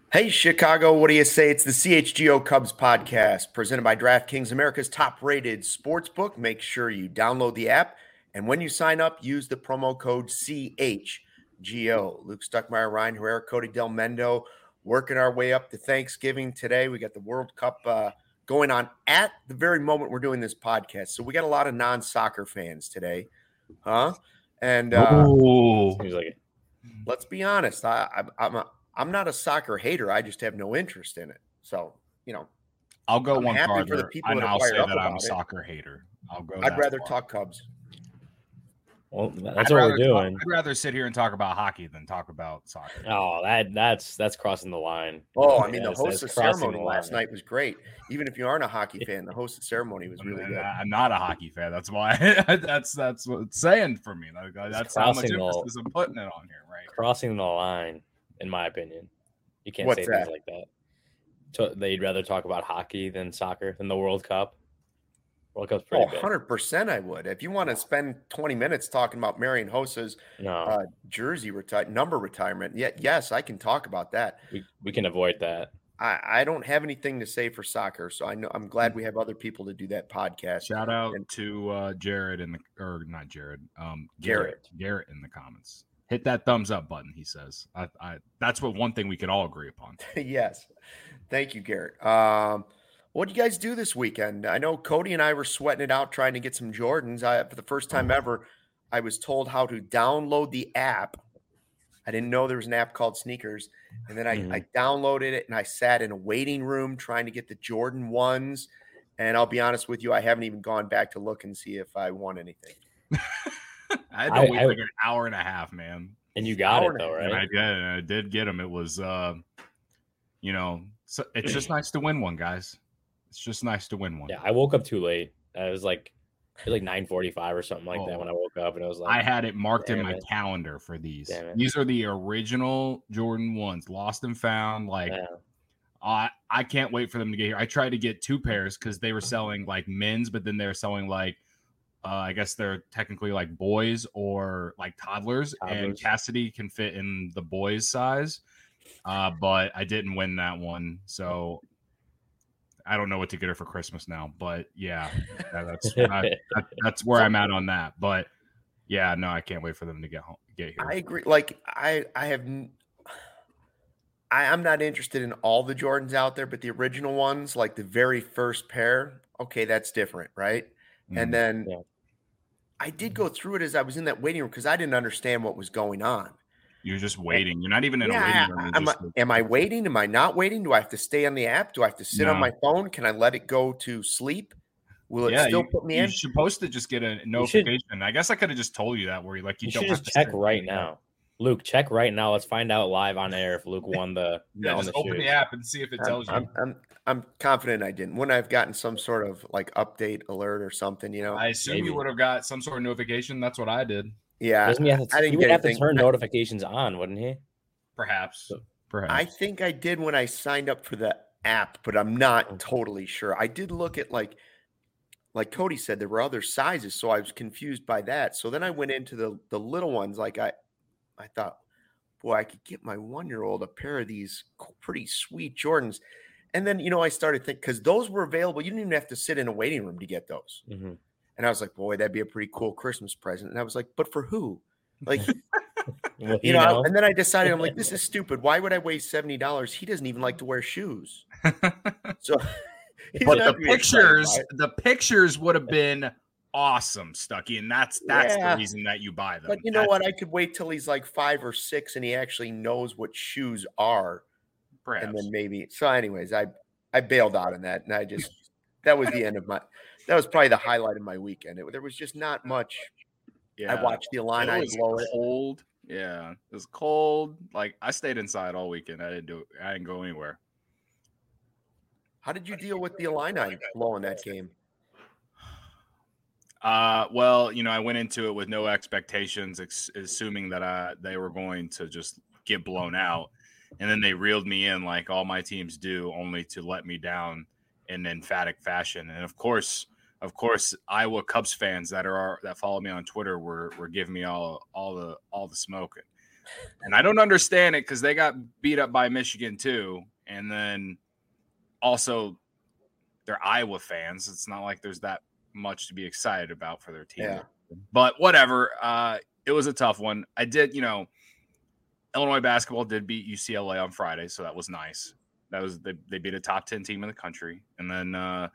Hey, Chicago, what do you say? It's the CHGO Cubs podcast presented by DraftKings, America's top-rated sportsbook. Make sure you download the app, and when you sign up, use the promo code CHGO. Luke Stuckmeyer, Ryan Herrera, Cody Del Mendo, working our way up to Thanksgiving today. We got the World Cup going on at the very moment we're doing this podcast, so we got a lot of non-soccer fans today, huh? And Seems like it. let's be honest, I'm not a soccer hater. I just have no interest in it. So, I'll go I'm one happy farther, for the people and that are I'll fired say up that I'm a about it. soccer hater. I'd rather talk Cubs. Well, that's what we're doing. I'd rather sit here and talk about hockey than talk about soccer. Oh, that's crossing the line. Oh, I mean, the Yes, host that's of crossing ceremony the last line. night was great. Even if you aren't a hockey fan, the host of ceremony was really And good. I'm not a hockey fan. That's why that's what it's saying for me. That's how much crossing the- emphasis I'm putting it on here, right? Crossing the line, in my opinion. You can't What's say that? things like that. So they'd rather talk about hockey than soccer, than the World Cup. World Cup's pretty big. 100% I would. If you want to spend 20 minutes talking about Marian Hossa's No, jersey number retirement, yes, I can talk about that. we can avoid that. I don't have anything to say for soccer, so I'm glad we have other people to do that podcast. Shout out to Jared not Jared, Garrett in the comments. Hit that thumbs up button, he says. That's one thing we can all agree upon. Yes. Thank you, Garrett. What did you guys do this weekend? I know Cody and I were sweating it out trying to get some Jordans. For the first time ever, I was told how to download the app. I didn't know there was an app called Sneakers. And then I downloaded it and I sat in a waiting room trying to get the Jordan 1s. And I'll be honest with you, I haven't even gone back to look and see if I won anything. I had to wait like an hour and a half, man. And you got it though, And right? I did get them. It was, so it's just nice to win one, guys. It's just nice to win one. Yeah, I woke up too late. It was like 9:45 or something like that when I woke up, and I was like, I had it marked in my calendar for these. These are the original Jordan 1s, lost and found. Like, I can't wait for them to get here. I tried to get 2 pairs because they were selling like men's, but then they're selling like, I guess they're technically like boys or like toddlers. And Cassidy can fit in the boys size, but I didn't win that one, so I don't know what to get her for Christmas now. But yeah, that's where I'm at on that. But yeah, no, I can't wait for them to get here. I agree. Like I'm not interested in all the Jordans out there, but the original ones, like the very first pair, okay, that's different, right? And then I did go through it as I was in that waiting room because I didn't understand what was going on. You're just waiting. You're not even in a waiting room. Am I waiting? Am I not waiting? Do I have to stay on the app? Do I have to sit on my phone? Can I let it go to sleep? Will it still put me in? You're supposed to just get a notification. I guess I could have just told you that where you should just check right now. Luke, check right now. Let's find out live on air if Luke won the. Just open the app and see if it tells you. I'm confident I didn't. Wouldn't I have gotten some sort of like update alert or something? I assume you would have got some sort of notification. That's what I did. Yeah, he would have to turn notifications on, wouldn't he? Perhaps. I think I did when I signed up for the app, but I'm not totally sure. I did look at like Cody said, there were other sizes, so I was confused by that. So then I went into the little ones. Like I thought, boy, I could get my 1-year-old a pair of these pretty sweet Jordans. And then, I started thinking, because those were available. You didn't even have to sit in a waiting room to get those. Mm-hmm. And I was like, boy, that'd be a pretty cool Christmas present. And I was like, but for who? Like, and then I decided, I'm like, this is stupid. Why would I waste $70? He doesn't even like to wear shoes. So, but the pictures would have been awesome, Stucky. And that's the reason that you buy them. But you know what? I could wait till he's like 5 or 6 and he actually knows what shoes are. Perhaps. And then maybe. So anyways, I bailed out on that. And that was the end of that was probably the highlight of my weekend. There was just not much. Yeah, I watched the Illini blow it. Cold. Yeah, it was cold. Like I stayed inside all weekend. I didn't go anywhere. How did you deal with the Illini blowing that game? Well, I went into it with no expectations, assuming that they were going to just get blown out, and then they reeled me in like all my teams do, only to let me down in emphatic fashion. And of course, Iowa Cubs fans that follow me on Twitter were giving me all the smoke. And I don't understand it because they got beat up by Michigan too. And then also they're Iowa fans. It's not like there's that much to be excited about for their team. Yeah. But whatever. It was a tough one. I did, Illinois basketball did beat UCLA on Friday, so that was nice. That was they beat a top 10 team in the country. And then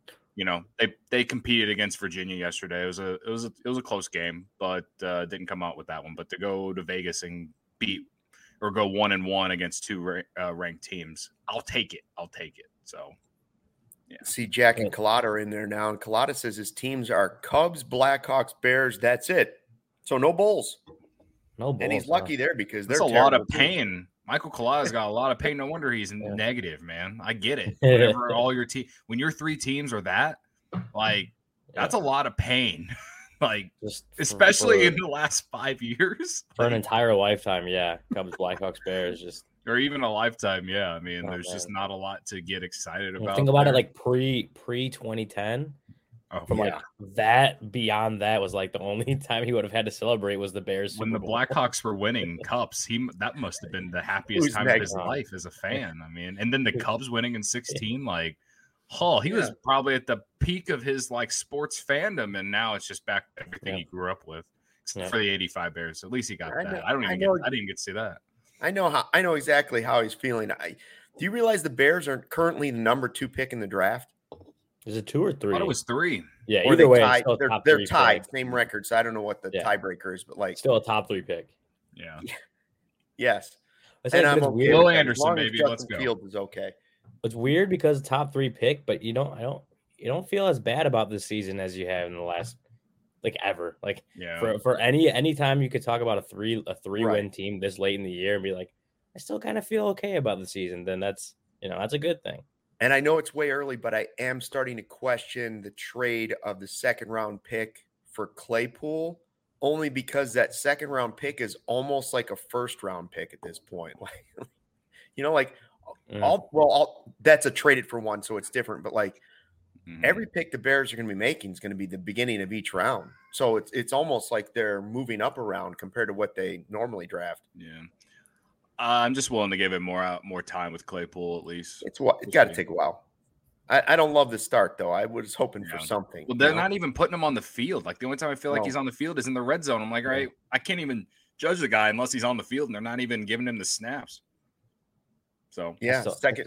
they competed against Virginia yesterday. It was a close game, but didn't come out with that one. But to go to Vegas and beat or go 1-1 against two ranked teams, I'll take it. So, yeah. See, Jack and Collada are in there now, and Collada says his teams are Cubs, Blackhawks, Bears. That's it. So no Bulls. No Bulls. And he's lucky there because there's a lot of pain. Michael Collada's got a lot of pain. No wonder he's negative, man. I get it. Whenever all your team, when your three teams are that, that's a lot of pain. Especially in the last 5 years. For an entire lifetime, yeah. Cubs, Blackhawks, Bears, or even a lifetime, yeah. I mean, there's just not a lot to get excited about. Think about it pre 2010. That beyond that was the only time he would have had to celebrate was the Bears. When the Blackhawks were winning cups, that must have been the happiest time of his life as a fan. I mean, and then the Cubs winning in 16, he was probably at the peak of his sports fandom, and now it's just back to everything he grew up with, except for the '85 Bears. At least he got that. I didn't get to see that. I know exactly how he's feeling. Do you realize the Bears are currently the number 2 pick in the draft? Is it 2 or 3? I thought it was 3. Yeah, either way, they're tied. Same record, so I don't know what the tiebreaker is, but still a top 3 pick. Yeah. Yes. And I'm okay. Will Anderson, baby, let's go. Fields is okay. It's weird because top 3 pick, but you don't feel as bad about this season as you have in the last ever. For any time you could talk about a 3-win team this late in the year and be like, I still kind of feel okay about the season, then that's a good thing. And I know it's way early, but I am starting to question the trade of the second-round pick for Claypool, only because that second-round pick is almost like a first-round pick at this point. That's a traded for one, so it's different. But every pick the Bears are going to be making is going to be the beginning of each round. So it's almost like they're moving up around compared to what they normally draft. Yeah. I'm just willing to give it more time with Claypool at least. It's got to take a while. I don't love the start though. I was hoping for something. Well, they're not even putting him on the field. The only time I feel like he's on the field is in the red zone. I'm like, all right, I can't even judge the guy unless he's on the field, and they're not even giving him the snaps. So second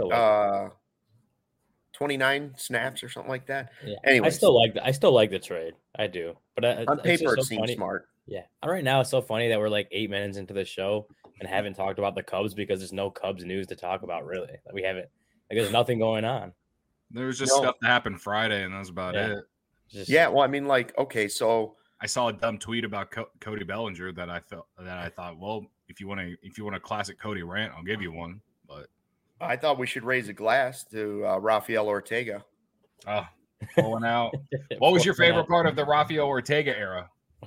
29 snaps or something like that. Yeah. Anyway, I still like the trade. I do, but on paper it seems smart. Yeah, right now it's so funny that we're 8 minutes into the show and haven't talked about the Cubs because there's no Cubs news to talk about. Really, we haven't. There's nothing going on. There was just stuff that happened Friday, and that was about it. Well, I mean, okay, so I saw a dumb tweet about Cody Bellinger that I thought, well, if you want a classic Cody rant, I'll give you one. But I thought we should raise a glass to Rafael Ortega. Oh, pulling out. What was your favorite part of the Rafael Ortega era?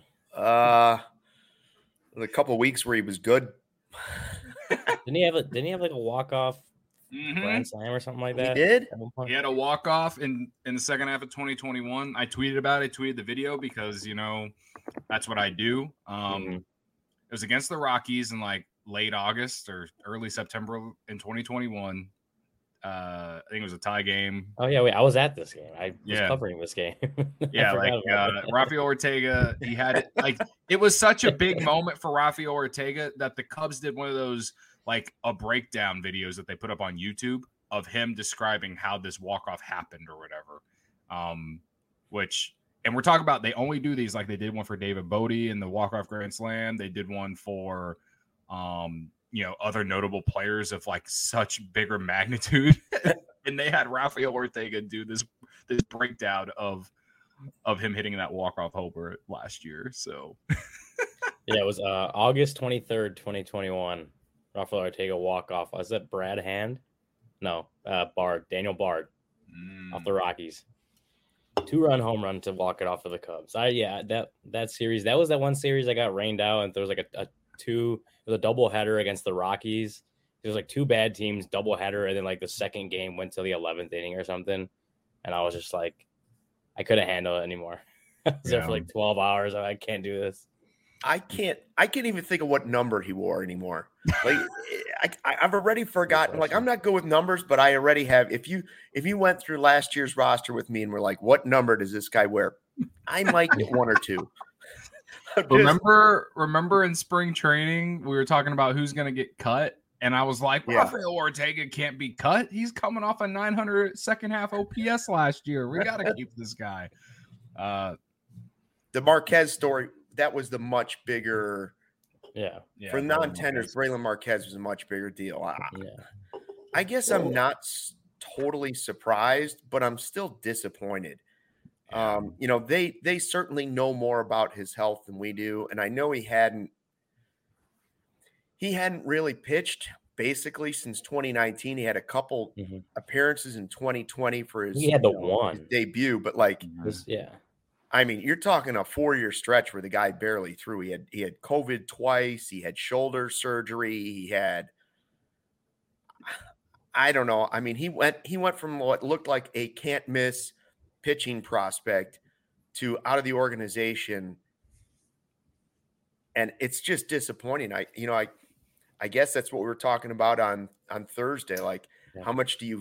The couple of weeks where he was good. Didn't he have a walk-off grand slam or something like that? He did. He had a walk-off in the second half of 2021. I tweeted about it. I tweeted the video because that's what I do. It was against the Rockies in late August or early September in 2021. I think it was a tie game. Oh yeah, wait, I was at this game. I was covering this game. Rafael Ortega, he had it it was such a big moment for Rafael Ortega that the Cubs did one of those a breakdown videos that they put up on YouTube of him describing how this walk-off happened or whatever. And we're talking about they only do these they did one for David Bodie in the walk-off grand slam. They did one for other notable players of such bigger magnitude. And they had Rafael Ortega do this breakdown of him hitting that walk-off homer last year. So yeah, it was August 23rd, 2021. Rafael Ortega walk-off. Was that Brad Hand? No, Daniel Bard off the Rockies. 2-run home run to walk it off for the Cubs. That series, that was that one series I got rained out, and there was it was a doubleheader against the Rockies. There was 2 bad teams, doubleheader, and then the second game went to the 11th inning or something. And I was just I couldn't handle it anymore. I was there for 12 hours. I can't do this. I can't even think of what number he wore anymore. Like I've already forgotten. Like I'm not good with numbers, but I already have. If you went through last year's roster with me and were like, what number does this guy wear? I might get one or two. Remember in spring training, we were talking about who's going to get cut. And I was like, Rafael Ortega can't be cut. He's coming off a 900 second half OPS last year. We got to keep this guy. The Marquez story, that was the much bigger. Yeah. For non-tenders, Brailyn Marquez was a much bigger deal. I guess I'm not totally surprised, but I'm still disappointed. They certainly know more about his health than we do. And I know he hadn't really pitched basically since 2019. He had a couple appearances in 2020 for his, his debut, but I mean, you're talking a 4-year stretch where the guy barely threw. He had COVID twice. He had shoulder surgery. He had, I don't know. I mean, he went from what looked like a can't miss pitching prospect to out of the organization. And it's just disappointing. I guess that's what we were talking about on Thursday. Like, how much do you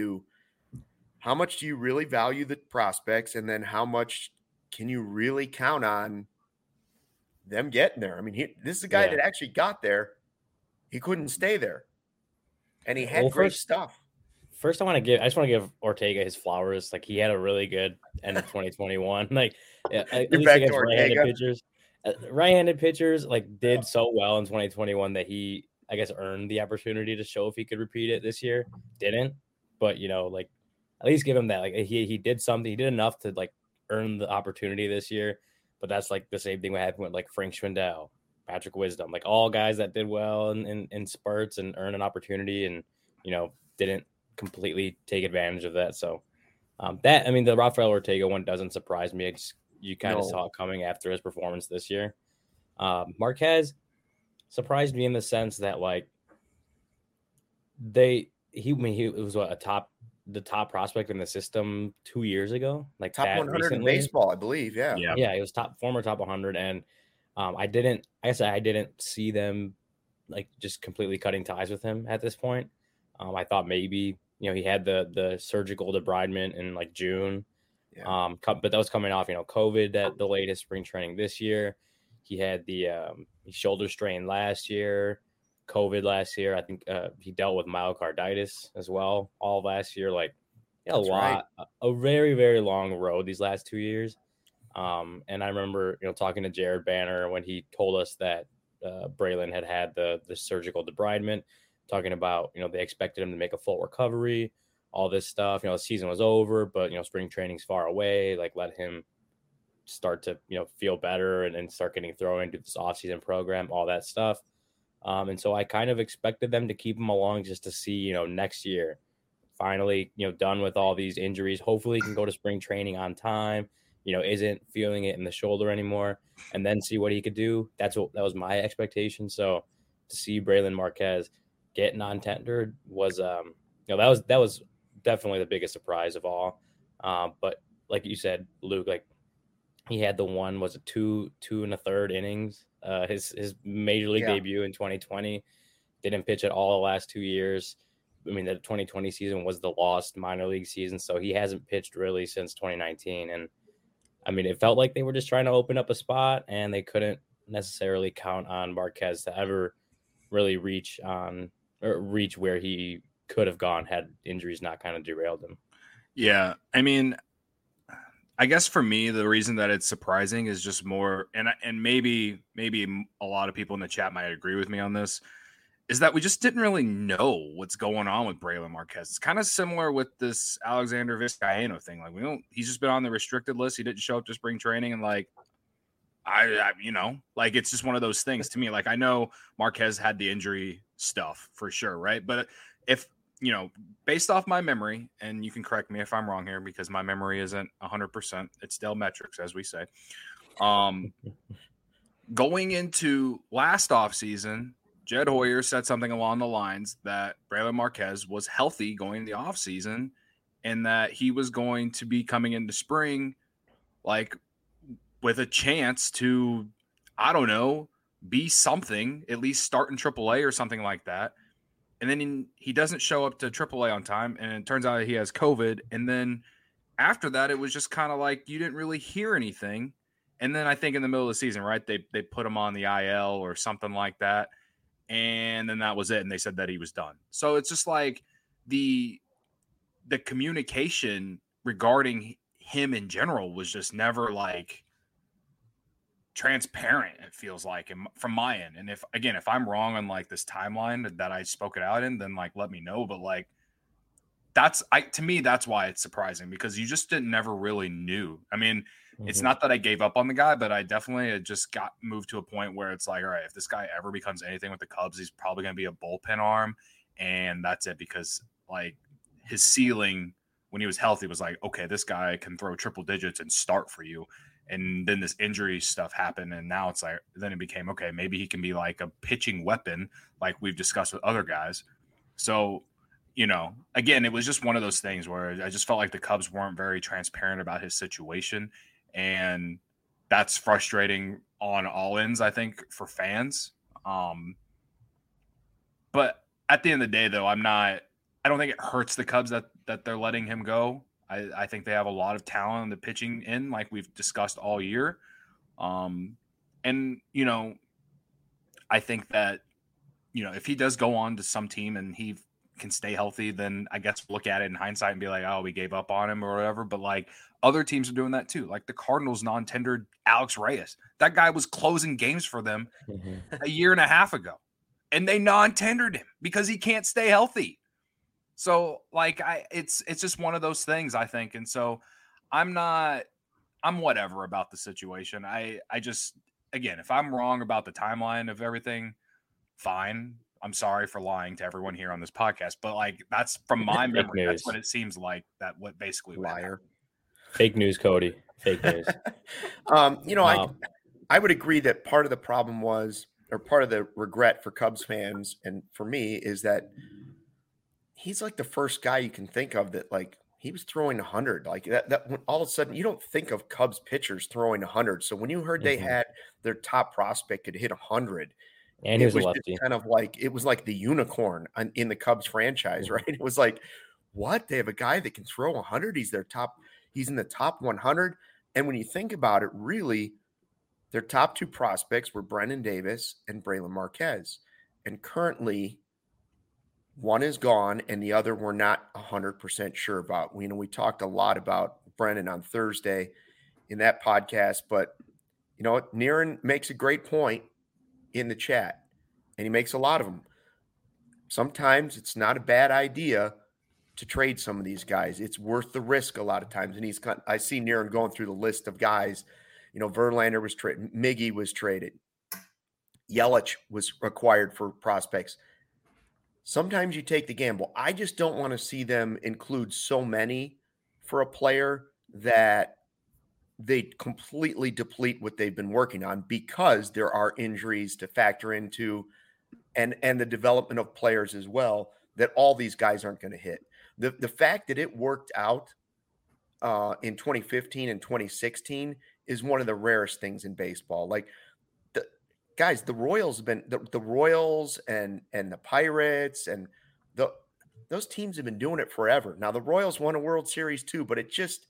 really value the prospects? And then how much can you really count on them getting there? I mean, this is a guy that actually got there. He couldn't stay there. And he had great stuff. First, I just want to give Ortega his flowers. Like, he had a really good end of 2021. Like, at least against right-handed pitchers, like, did so well in 2021 that he, I guess, earned the opportunity to show if he could repeat it this year. Didn't, but like, at least give him that. Like, he did something. He did enough to like earn the opportunity this year. But that's like the same thing what happened with like Frank Schwindel, Patrick Wisdom, like all guys that did well in spurts and earned an opportunity and didn't completely take advantage of that. So the Rafael Ortega one doesn't surprise me. You kind of saw it coming after his performance this year. Marquez surprised me in the sense that like he was the top prospect in the system 2 years ago, like top 100 in baseball, I believe. Yeah. He was former top 100. And I didn't see them like just completely cutting ties with him at this point. I thought maybe, he had the surgical debridement in like June. But that was coming off, COVID that delayed his spring training this year. He had the shoulder strain last year, COVID last year. I think he dealt with myocarditis as well all last year. Like, a very, very long road these last 2 years. And I remember, talking to Jared Banner when he told us that Brailyn had the surgical debridement, talking about, they expected him to make a full recovery, all this stuff. The season was over, but, spring training's far away. Like, let him start to, feel better and start getting thrown into this offseason program, all that stuff. And so I kind of expected them to keep him along just to see, next year, finally, done with all these injuries. Hopefully he can go to spring training on time, isn't feeling it in the shoulder anymore, and then see what he could do. That was my expectation. So to see Brailyn Marquez get non-tendered was, that was definitely the biggest surprise of all. But like you said, Luke, like he had the one, was it 2 1/3 innings, his major league debut in 2020, didn't pitch at all the last 2 years. I mean, the 2020 season was the lost minor league season. So he hasn't pitched really since 2019. And I mean, it felt like they were just trying to open up a spot and they couldn't necessarily count on Marquez to ever really reach where he could have gone had injuries not kind of derailed him. Yeah. I mean, I guess for me, the reason that it's surprising is just more, and maybe a lot of people in the chat might agree with me on this, is that we just didn't really know what's going on with Brailyn Marquez. It's kind of similar with this Alexander Vizcaino thing. Like, he's just been on the restricted list. He didn't show up to spring training, and like, like it's just one of those things to me. Like, I know Marquez had the injury stuff for sure, right? But if, based off my memory, and you can correct me if I'm wrong here because my memory isn't 100%. It's Dell metrics, as we say. Going into last offseason, Jed Hoyer said something along the lines that Brailyn Marquez was healthy going into the offseason and that he was going to be coming into spring like with a chance to, I don't know, be something, at least start in AAA or something like that. And then he doesn't show up to AAA on time, and it turns out he has COVID. And then after that, it was just kind of like you didn't really hear anything. And then I think in the middle of the season, right, they put him on the IL or something like that. And then that was it. And they said that he was done. So it's just like the communication regarding him in general was just never like transparent, it feels like, from my end. And if I'm wrong on like this timeline that I spoke it out in, then like let me know. But like to me that's why it's surprising, because you just never really knew. I mean, it's not that I gave up on the guy, but I definitely had just got moved to a point where it's like, all right, if this guy ever becomes anything with the Cubs, he's probably going to be a bullpen arm, and that's it. Because like his ceiling when he was healthy was like, okay, this guy can throw triple digits and start for you. And then this injury stuff happened, and now it's like, then it became, okay, maybe he can be like a pitching weapon like we've discussed with other guys. So, you know, again, it was just one of those things where I just felt like the Cubs weren't very transparent about his situation, and that's frustrating on all ends, I think, for fans. But at the end of the day, though, I don't think it hurts the Cubs that they're letting him go. I think they have a lot of talent in the pitching in, like we've discussed all year. And, you know, I think that, you know, if he does go on to some team and he can stay healthy, then I guess look at it in hindsight and be like, oh, we gave up on him or whatever. But like other teams are doing that too. Like the Cardinals non-tendered Alex Reyes. That guy was closing games for them a year and a half ago, and they non-tendered him because he can't stay healthy. So like it's just one of those things, I think. And so I'm whatever about the situation. I just, again, if I'm wrong about the timeline of everything, fine. I'm sorry for lying to everyone here on this podcast, but like that's from my memory. That's what it seems like. That what basically liar. Fake news, Cody. Fake news. You know, I would agree that part of the problem was, or part of the regret for Cubs fans and for me, is that he's like the first guy you can think of that like he was throwing 100 like that when all of a sudden you don't think of Cubs pitchers throwing 100. So when you heard they had their top prospect could hit 100, and it was kind of like, it was like the unicorn in the Cubs franchise, right? It was like, what? They have a guy that can throw 100. He's in the top 100. And when you think about it, really, their top two prospects were Brennan Davis and Braylon Marquez. And currently, one is gone, and the other we're not 100% sure about. We talked a lot about Brennan on Thursday in that podcast, but you know, Niren makes a great point in the chat, and he makes a lot of them. Sometimes it's not a bad idea to trade some of these guys. It's worth the risk a lot of times. And I see Niren going through the list of guys. You know, Verlander was traded, Miggy was traded, Yelich was acquired for prospects. Sometimes you take the gamble. I just don't want to see them include so many for a player that they completely deplete what they've been working on, because there are injuries to factor into and the development of players as well, that all these guys aren't going to hit. The fact that it worked out in 2015 and 2016 is one of the rarest things in baseball. Like, guys, the Royals have been the Royals and the Pirates and those teams have been doing it forever. Now the Royals won a World Series too, but it just,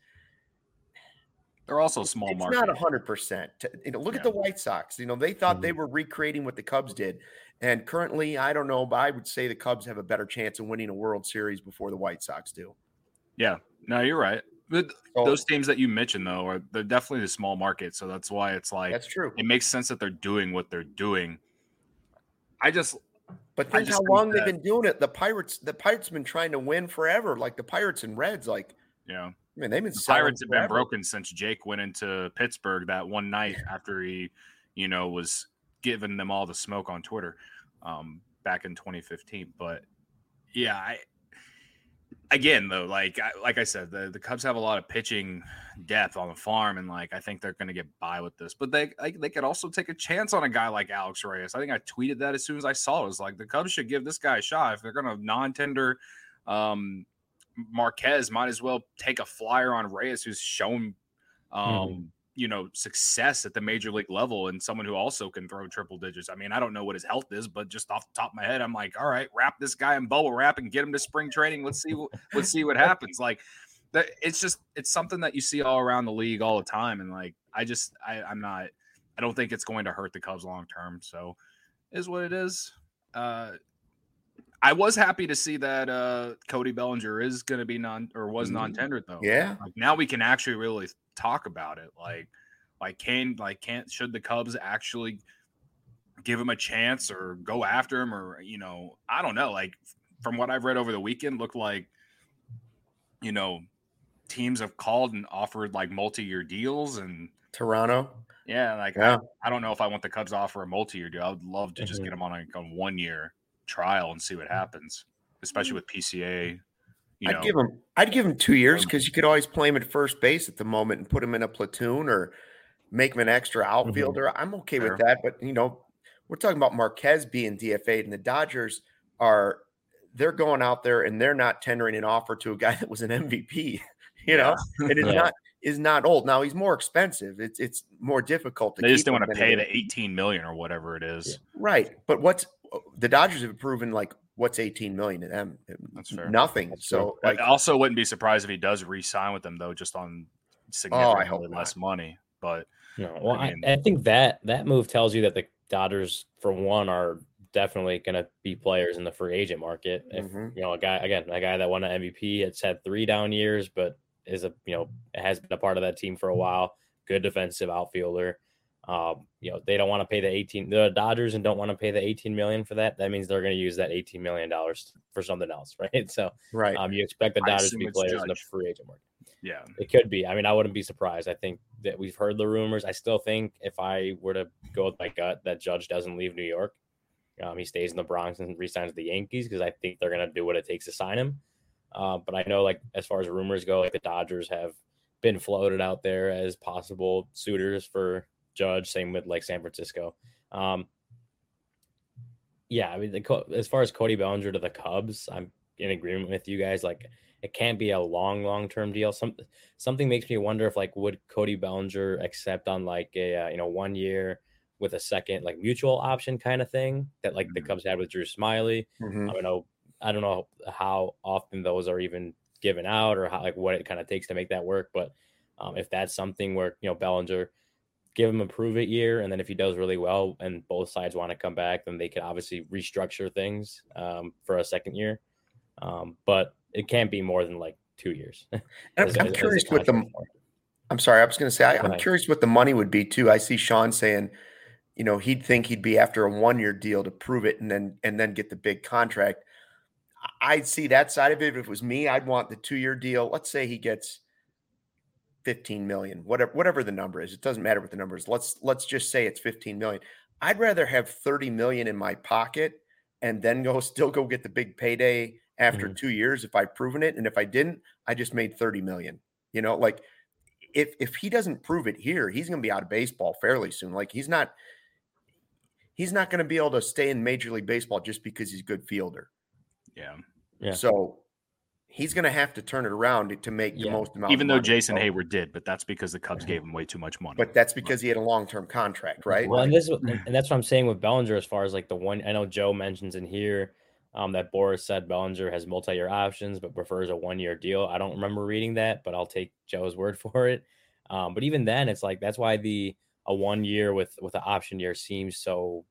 they're also small it's market. Not 100%. You know, look at the White Sox. You know, they thought they were recreating what the Cubs did, and currently, I don't know, but I would say the Cubs have a better chance of winning a World Series before the White Sox do. Yeah, no, you're right. But those teams that you mentioned, though, they're definitely the small market. So that's why it's like, that's true. It makes sense that they're doing what they're doing. But think how long they've been doing it. The Pirates have been trying to win forever. Like the Pirates and Reds, like, yeah. I mean, they've been. The Pirates have been broken since Jake went into Pittsburgh that one night after he, you know, was giving them all the smoke on Twitter, back in 2015. But yeah, again, though, like I said, the Cubs have a lot of pitching depth on the farm, and like I think they're going to get by with this. But they could also take a chance on a guy like Alex Reyes. I think I tweeted that as soon as I saw it. It was like, the Cubs should give this guy a shot. If they're going to non-tender Marquez, might as well take a flyer on Reyes, who's shown, success at the major league level and someone who also can throw triple digits. I mean, I don't know what his health is, but just off the top of my head, I'm like, all right, wrap this guy in bubble wrap and get him to spring training. Let's see what happens. Like that, it's something that you see all around the league all the time. And like, I don't think it's going to hurt the Cubs long term. So is what it is. I was happy to see that Cody Bellinger is going to be non-tendered though. Yeah. Like now we can actually really talk about it. Should the Cubs actually give him a chance or go after him, or I don't know. Like from what I've read over the weekend, looked like teams have called and offered like multi-year deals, and Toronto. Yeah, I don't know if I want the Cubs to offer a multi-year deal. I would love to just get him on a 1-year trial and see what happens, especially with PCA. I'd give him 2 years because you could always play him at first base at the moment and put him in a platoon or make him an extra outfielder. I'm okay with that, but we're talking about Marquez being DFA'd, and the Dodgers they're going out there and they're not tendering an offer to a guy that was an MVP. And is not old. Now he's more expensive. It's more difficult to. They just don't want to pay the $18 million or whatever it is. Right, but the Dodgers have proven like what's $18 million to them? That's fair. Nothing. That's so I also wouldn't be surprised if he does re-sign with them though, just on significantly less money. But I think that move tells you that the Dodgers, for one, are definitely going to be players in the free agent market. If a guy that won an MVP, it's had 3 down years, but has been a part of that team for a while. Good defensive outfielder. They don't want to pay the Dodgers and don't want to pay the $18 million for that. That means they're going to use that $18 million for something else, right? So, you expect the Dodgers to be players in the free agent market. Yeah, it could be. I mean, I wouldn't be surprised. I think that we've heard the rumors. I still think if I were to go with my gut, that Judge doesn't leave New York. He stays in the Bronx and re-signs the Yankees because I think they're going to do what it takes to sign him. But I know, like, as far as rumors go, like the Dodgers have been floated out there as possible suitors for Judge. Same with like San Francisco. I mean, as far as Cody Bellinger to the Cubs, I'm in agreement with you guys. Like, it can't be a long-term deal. Something makes me wonder if would Cody Bellinger accept on like a 1 year with a second like mutual option kind of thing that like the Cubs had with Drew Smyly. I don't know how often those are even given out or how what it kind of takes to make that work. But if that's something where Bellinger, give him a prove it year, and then if he does really well and both sides want to come back, then they could obviously restructure things for a second year. But it can't be more than 2 years. I'm curious with them. I'm sorry, I was going to say I'm curious what the money would be too. I see Sean saying, he'd think he'd be after a 1-year deal to prove it and then get the big contract. I'd see that side of it. If it was me, I'd want the 2-year deal. Let's say he gets $15 million, whatever the number is. It doesn't matter what the number is. Let's just say it's $15 million. I'd rather have $30 million in my pocket and then still go get the big payday after 2 years if I've proven it. And if I didn't, I just made $30 million. If he doesn't prove it here, he's going to be out of baseball fairly soon. Like he's not going to be able to stay in Major League Baseball just because he's a good fielder. Yeah. So he's going to have to turn it around to make the most amount. Even though Jason Hayward did, but that's because the Cubs gave him way too much money. But that's because he had a long-term contract, right? Well, and that's what I'm saying with Bellinger as far as the one. I know Joe mentions in here that Boris said Bellinger has multi-year options, but prefers a 1-year deal. I don't remember reading that, but I'll take Joe's word for it. But even then, it's that's why a 1 year with an option year seems so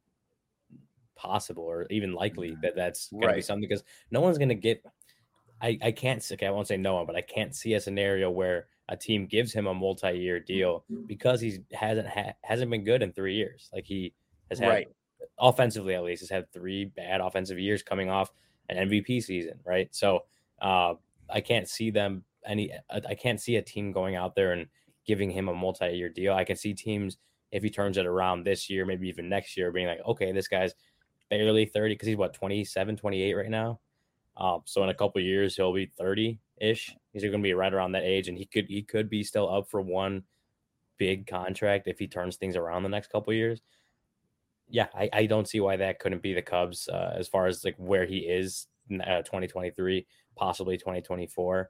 possible or even likely that's going to be something, because no one's going to get. I can't. Okay, I won't say no one, but I can't see a scenario where a team gives him a multi-year deal because he hasn't been good in 3 years. Like he has had offensively, at least, has had 3 bad offensive years coming off an MVP season, right? So I can't see them I can't see a team going out there and giving him a multi-year deal. I can see teams, if he turns it around this year, maybe even next year, being like, okay, this guy's barely 30 because he's 27, 28 right now. So in a couple of years, he'll be 30-ish. He's going to be right around that age, and he could be still up for one big contract if he turns things around the next couple of years. Yeah, I don't see why that couldn't be the Cubs as far as where he is in 2023, possibly 2024.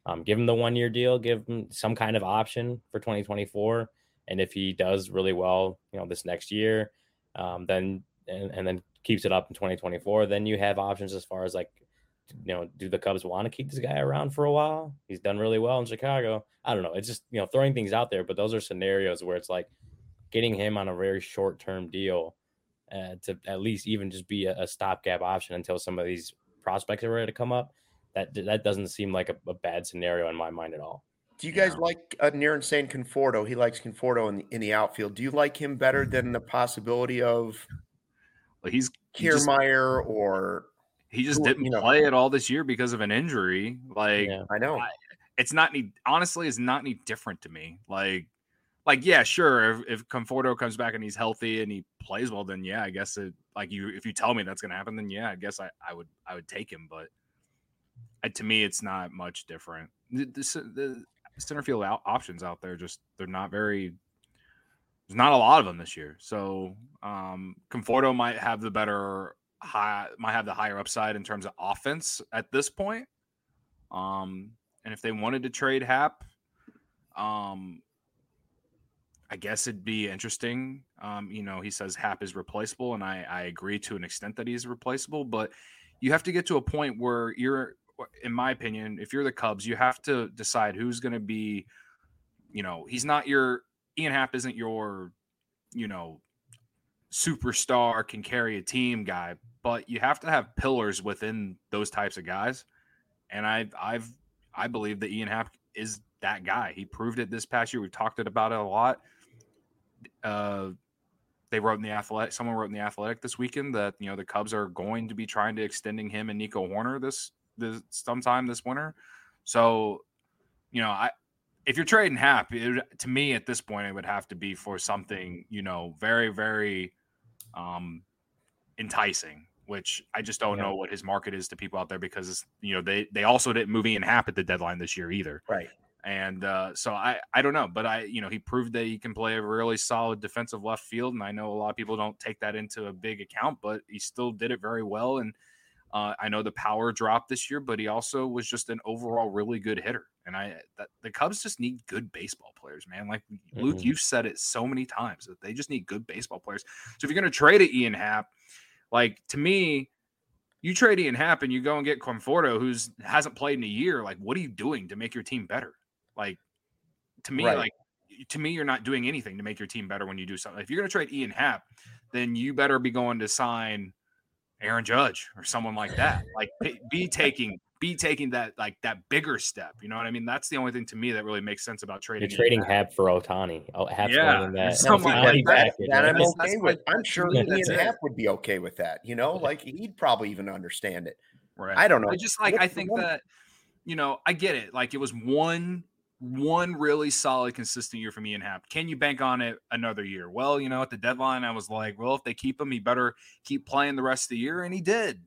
Give him the 1-year deal, give him some kind of option for 2024. And if he does really well, this next year, then keeps it up in 2024, then you have options as far as do the Cubs want to keep this guy around for a while? He's done really well in Chicago. I don't know. It's just, throwing things out there, but those are scenarios where it's like getting him on a very short-term deal to at least even just be a stopgap option until some of these prospects are ready to come up. That doesn't seem like a bad scenario in my mind at all. Do you guys like Niran saying Conforto? He likes Conforto in the outfield. Do you like him better than the possibility of Kiermaier or he just didn't play at all this year because of an injury? I know it's not any different to me. Yeah, sure. If Conforto comes back and he's healthy and he plays well, then yeah, I guess if you tell me that's going to happen, then yeah, I guess I would take him. But to me, it's not much different. The center field options out there, they're not very. There's not a lot of them this year. So Conforto might have the higher upside in terms of offense at this point. And if they wanted to trade Happ, I guess it'd be interesting. He says Happ is replaceable, and I agree to an extent that he's replaceable, but you have to get to a point where in my opinion, if you're the Cubs, you have to decide who's going to be, he's not Ian Happ isn't your, superstar can carry a team guy, but you have to have pillars within those types of guys. And I believe that Ian Happ is that guy. He proved it this past year. We've talked about it a lot. They wrote in the Athletic. Someone wrote in the Athletic this weekend that the Cubs are going to be trying to extending him and Nico Horner this sometime this winter. So, if you're trading Happ, to me at this point, it would have to be for something, very, very enticing, which I just don't know what his market is to people out there because, they also didn't move Ian Happ at the deadline this year either. Right. And so I don't know, but he proved that he can play a really solid defensive left field. And I know a lot of people don't take that into a big account, but he still did it very well. And I know the power dropped this year, but he also was just an overall really good hitter. And the Cubs just need good baseball players, man. Like Luke, you've said it so many times that they just need good baseball players. So if you're going to trade it, Ian Happ, to me, you trade Ian Happ and you go and get Conforto, who hasn't played in a year. Like, what are you doing to make your team better? To me, you're not doing anything to make your team better when you do something. If you're going to trade Ian Happ, then you better be going to sign Aaron Judge or someone like that. Be taking that that bigger step. You know what I mean? That's the only thing to me that really makes sense about trading. You're trading Happ for Ohtani. Happ's that I'm okay with. I'm sure Ian Happ would be okay with that. He'd probably even understand it. Right. I don't know. I think that I get it. It was one really solid, consistent year from Ian Happ. Can you bank on it another year? Well, at the deadline, I was like, well, if they keep him, he better keep playing the rest of the year, and he did.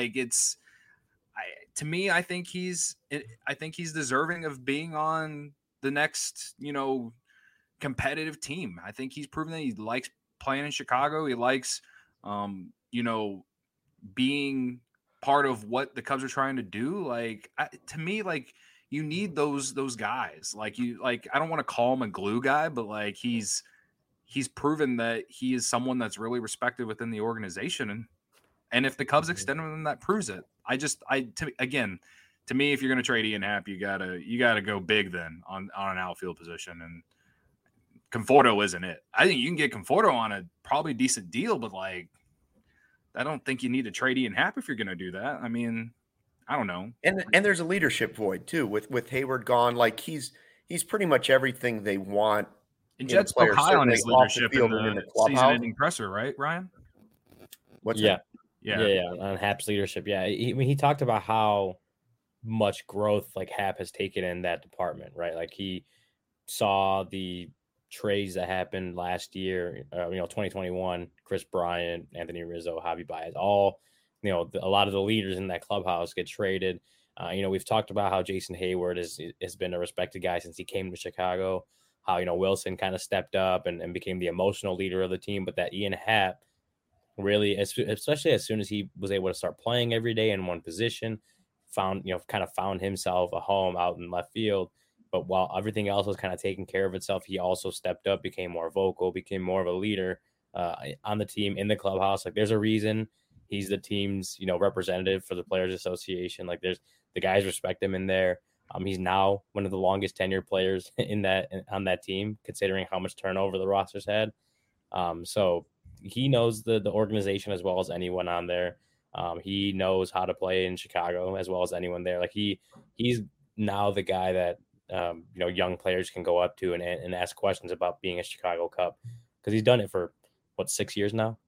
To me, I think he's deserving of being on the next, competitive team. I think he's proven that he likes playing in Chicago. He likes, being part of what the Cubs are trying to do. To me, you need those guys. I don't want to call him a glue guy, but he's proven that he is someone that's really respected within the organization. And if the Cubs extend him, that proves it. To me, if you're going to trade Ian Happ, you gotta go big then on an outfield position. And Conforto isn't it. I think you can get Conforto on a probably decent deal, but I don't think you need to trade Ian Happ if you're going to do that. I mean, I don't know. And there's a leadership void too with Hayward gone. He's pretty much everything they want. And Jed spoke high on his leadership in the season-ending presser, right, Ryan? What's that? Yeah, on Happ's leadership. Yeah, he talked about how much growth Happ has taken in that department, right? He saw the trades that happened last year, 2021, Chris Bryant, Anthony Rizzo, Javi Baez, all, a lot of the leaders in that clubhouse get traded. We've talked about how Jason Hayward has been a respected guy since he came to Chicago, how, Wilson kind of stepped up and became the emotional leader of the team, but that Ian Happ really, especially as soon as he was able to start playing every day in one position, found himself a home out in left field. But while everything else was kind of taking care of itself, he also stepped up, became more vocal, became more of a leader on the team, in the clubhouse. Like, there's a reason he's the team's, representative for the Players Association. Like, there's the guys respect him in there. He's now one of the longest tenured players on that team, considering how much turnover the roster's had. So he knows the organization as well as anyone on there. He knows how to play in Chicago as well as anyone there. Like, he's now the guy that young players can go up to and ask questions about being a Chicago Cub, because he's done it for 6 years now.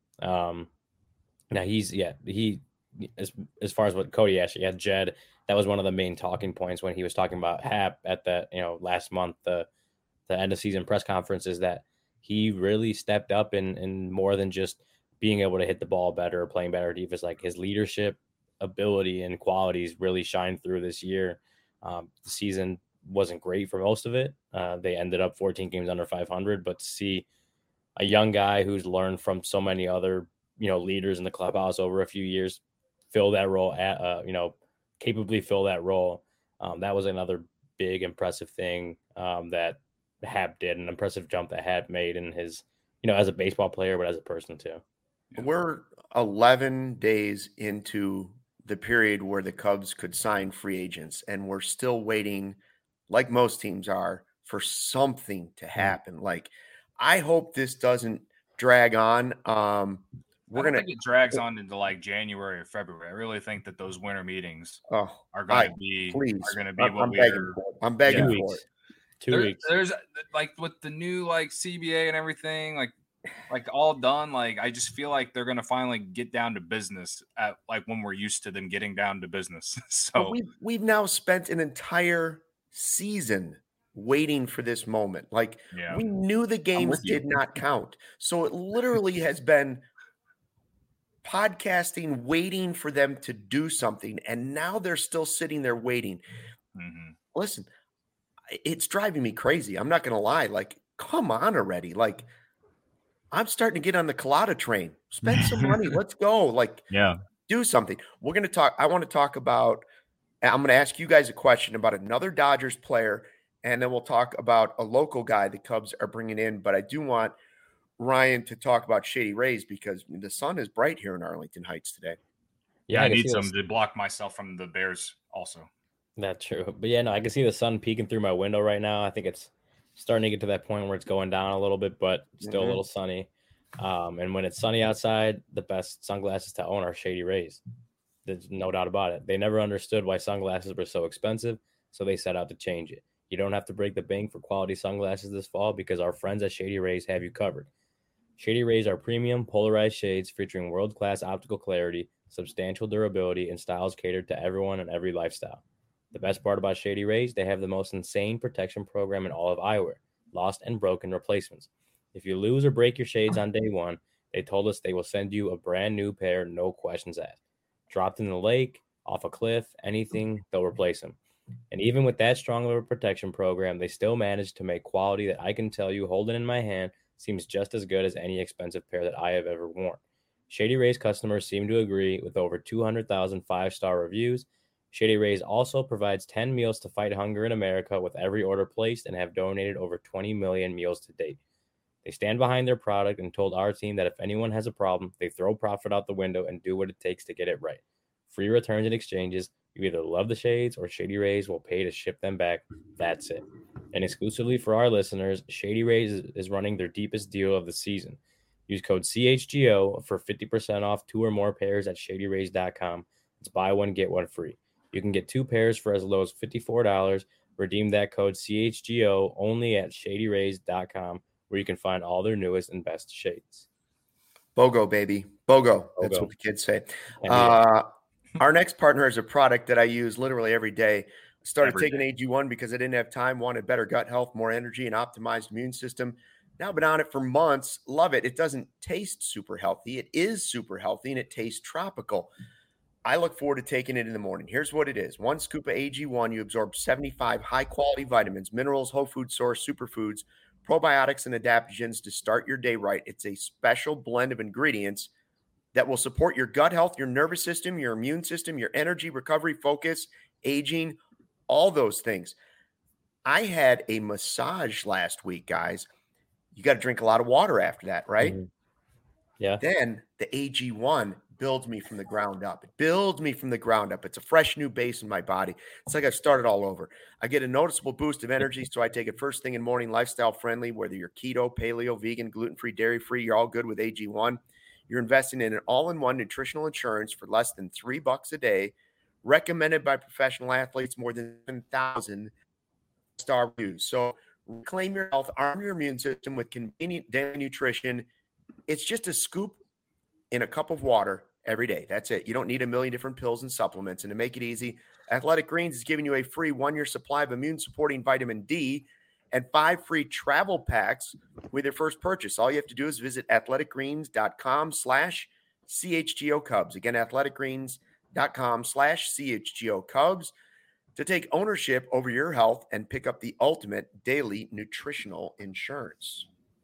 Now he as far as what Cody asked, Jed, that was one of the main talking points when he was talking about Hap at the last month, the end of season press conference, is that he really stepped up in more than just being able to hit the ball better or playing better defense. Like, his leadership ability and qualities really shined through this year. The season wasn't great for most of it. They ended up 14 games under 500, but to see a young guy who's learned from so many other, leaders in the clubhouse over a few years fill that role capably fill that role. That was another big impressive thing that Hap did, an impressive jump that Hap made in his, as a baseball player, but as a person too. We're 11 days into the period where the Cubs could sign free agents, and we're still waiting, like most teams are, for something to happen. Like, I hope this doesn't drag on. I think it drags on into like January or February. I really think that those winter meetings are going to be I'm begging for it. 2 weeks. There's like with the new like CBA and everything, like all done. Like, I just feel like they're going to finally get down to business at like when we're used to them getting down to business. So but we've now spent an entire season waiting for this moment. Like, we knew the games did not count. So it literally has been podcasting, waiting for them to do something. And now they're still sitting there waiting. Mm-hmm. Listen, it's driving me crazy. I'm not going to lie. Like, come on already. Like, I'm starting to get on the Collada train. Spend some money. Let's go. Like, do something. We're going to talk. I want to talk about, I'm going to ask you guys a question about another Dodgers player, and then we'll talk about a local guy the Cubs are bringing in. But I do want Ryan to talk about Shady Rays, because the sun is bright here in Arlington Heights today. Yeah, I need some to block myself from the Bears also. That's true. But I can see the sun peeking through my window right now. I think it's starting to get to that point where it's going down a little bit, but still a little sunny. And when it's sunny outside, the best sunglasses to own are Shady Rays. There's no doubt about it. They never understood why sunglasses were so expensive, so they set out to change it. You don't have to break the bank for quality sunglasses this fall, because our friends at Shady Rays have you covered. Shady Rays are premium polarized shades featuring world-class optical clarity, substantial durability, and styles catered to everyone and every lifestyle. The best part about Shady Rays, they have the most insane protection program in all of eyewear, lost and broken replacements. If you lose or break your shades on day one, they told us they will send you a brand new pair, no questions asked. Dropped in the lake, off a cliff, anything, they'll replace them. And even with that strong of a protection program, they still managed to make quality that I can tell you, holding in my hand, seems just as good as any expensive pair that I have ever worn. Shady Rays customers seem to agree. With over 200,000 5-star reviews, Shady Rays also provides 10 meals to fight hunger in America with every order placed, and have donated over 20 million meals to date. They stand behind their product and told our team that if anyone has a problem, they throw profit out the window and do what it takes to get it right. Free returns and exchanges. You either love the shades or Shady Rays will pay to ship them back. That's it. And exclusively for our listeners, Shady Rays is running their deepest deal of the season. Use code CHGO for 50% off 2 or more pairs at ShadyRays.com. It's buy one, get one free. You can get 2 pairs for as low as $54. Redeem that code CHGO only at ShadyRays.com, where you can find all their newest and best shades. BOGO, baby. BOGO. That's what the kids say. Our next partner is a product that I use literally every day. Started taking AG1 because I didn't have time, wanted better gut health, more energy, and optimized immune system. Now I've been on it for months. Love it. It doesn't taste super healthy. It is super healthy, and it tastes tropical. I look forward to taking it in the morning. Here's what it is. 1 scoop of AG1, you absorb 75 high-quality vitamins, minerals, whole food source, superfoods, probiotics, and adaptogens to start your day right. It's a special blend of ingredients that will support your gut health, your nervous system, your immune system, your energy, recovery, focus, aging, all those things. I had a massage last week, guys. You got to drink a lot of water after that, right? Mm-hmm. Yeah. Then the AG1 builds me from the ground up. It builds me from the ground up. It's a fresh new base in my body. It's like I've started all over. I get a noticeable boost of energy, so I take it first thing in the morning, lifestyle friendly, whether you're keto, paleo, vegan, gluten-free, dairy-free, you're all good with AG1. You're investing in an all-in-one nutritional insurance for less than $3 a day, recommended by professional athletes, more than 10,000 star reviews. So reclaim your health, arm your immune system with convenient daily nutrition. It's just a scoop in a cup of water every day. That's it. You don't need a million different pills and supplements. And to make it easy, Athletic Greens is giving you a free 1-year supply of immune-supporting vitamin D and 5 free travel packs with your first purchase. All you have to do is visit athleticgreens.com/CHGO Cubs. Again, athleticgreens.com/CHGO Cubs to take ownership over your health and pick up the ultimate daily nutritional insurance.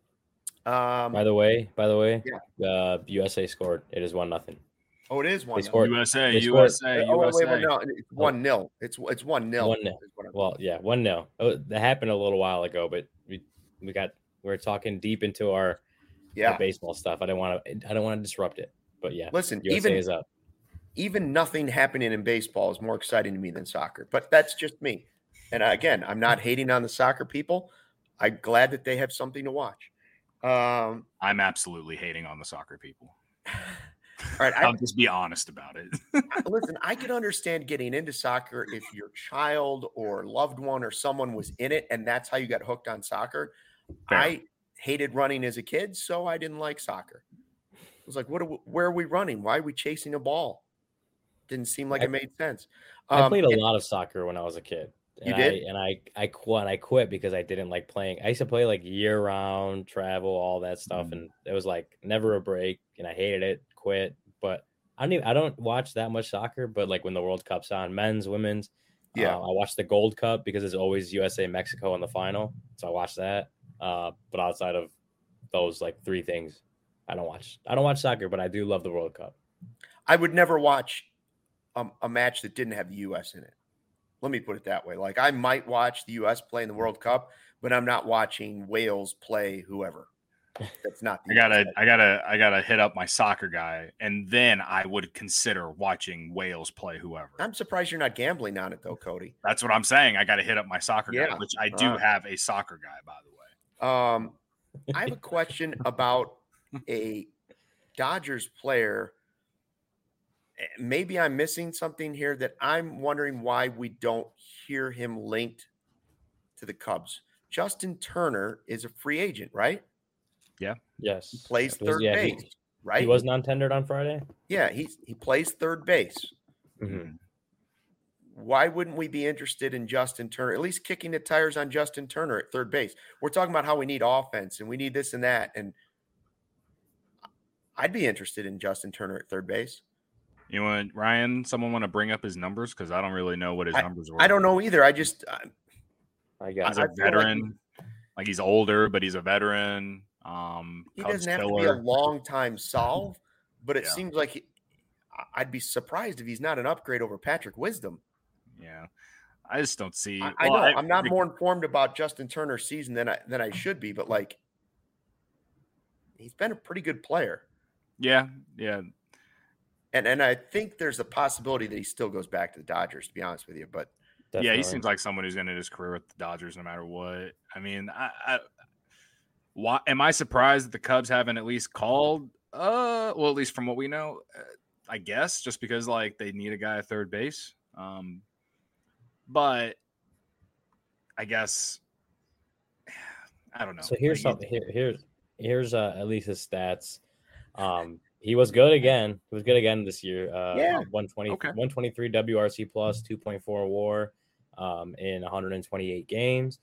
By the way, yeah. USA scored. It is 1-0. Oh, it is 1-0. USA. Oh, wait, no, it's 1-0. It's 1-0. 1-0. Well, yeah, 1-0. Oh, that happened a little while ago, but we're talking deep into our baseball stuff. I don't want to disrupt it. But yeah, listen, USA is up. Even nothing happening in baseball is more exciting to me than soccer. But that's just me. And again, I'm not hating on the soccer people. I'm glad that they have something to watch. I'm absolutely hating on the soccer people. All right, I'll just be honest about it. Listen, I could understand getting into soccer if your child or loved one or someone was in it, and that's how you got hooked on soccer. Fair. I hated running as a kid, so I didn't like soccer. I was like, where are we running? Why are we chasing a ball? Didn't seem like it made sense. I played a lot of soccer when I was a kid. You did? I quit because I didn't like playing. I used to play like year round, travel, all that stuff, and it was like never a break, and I hated it. Quit. But I don't watch that much soccer. But like when the World Cup's on, men's, women's, I watch the Gold Cup because it's always USA Mexico in the final, so I watch that. But outside of those like three things, I don't watch soccer, but I do love the World Cup. I would never watch a match that didn't have the U.S. in it. Let me put it that way. Like I might watch the U.S. play in the World Cup, but I'm not watching Wales play whoever. That's not. I gotta hit up my soccer guy, and then I would consider watching Wales play whoever. I'm surprised you're not gambling on it though, Cody. That's what I'm saying. I got to hit up my soccer guy, which I do have a soccer guy, by the way. I have a question about a Dodgers player. Maybe I'm missing something here that I'm wondering why we don't hear him linked to the Cubs. Justin Turner is a free agent, right? Yeah. Yes. He plays third base, right? He was non-tendered on Friday? Yeah, he plays third base. Mm-hmm. Why wouldn't we be interested in Justin Turner, at least kicking the tires on Justin Turner at third base? We're talking about how we need offense and we need this and that. And I'd be interested in Justin Turner at third base. You want Ryan? Someone want to bring up his numbers because I don't really know what his numbers were. I don't know either. He's a veteran, like he's older, but he's a veteran. He doesn't have to be a long time solve, but it seems like I'd be surprised if he's not an upgrade over Patrick Wisdom. Yeah, I just don't see. I know I'm not more informed about Justin Turner's season than I should be, but like he's been a pretty good player. Yeah. And I think there's a possibility that he still goes back to the Dodgers, to be honest with you. But definitely. Yeah, he seems like someone who's going to end his career with the Dodgers no matter what. I mean, why am I surprised that the Cubs haven't at least called? Well, at least from what we know, I guess just because like they need a guy at third base. But I guess I don't know. So here's something. Here's at least his stats. He was good again. He was good again this year. 123 WRC plus, 2.4 WAR in 128 games.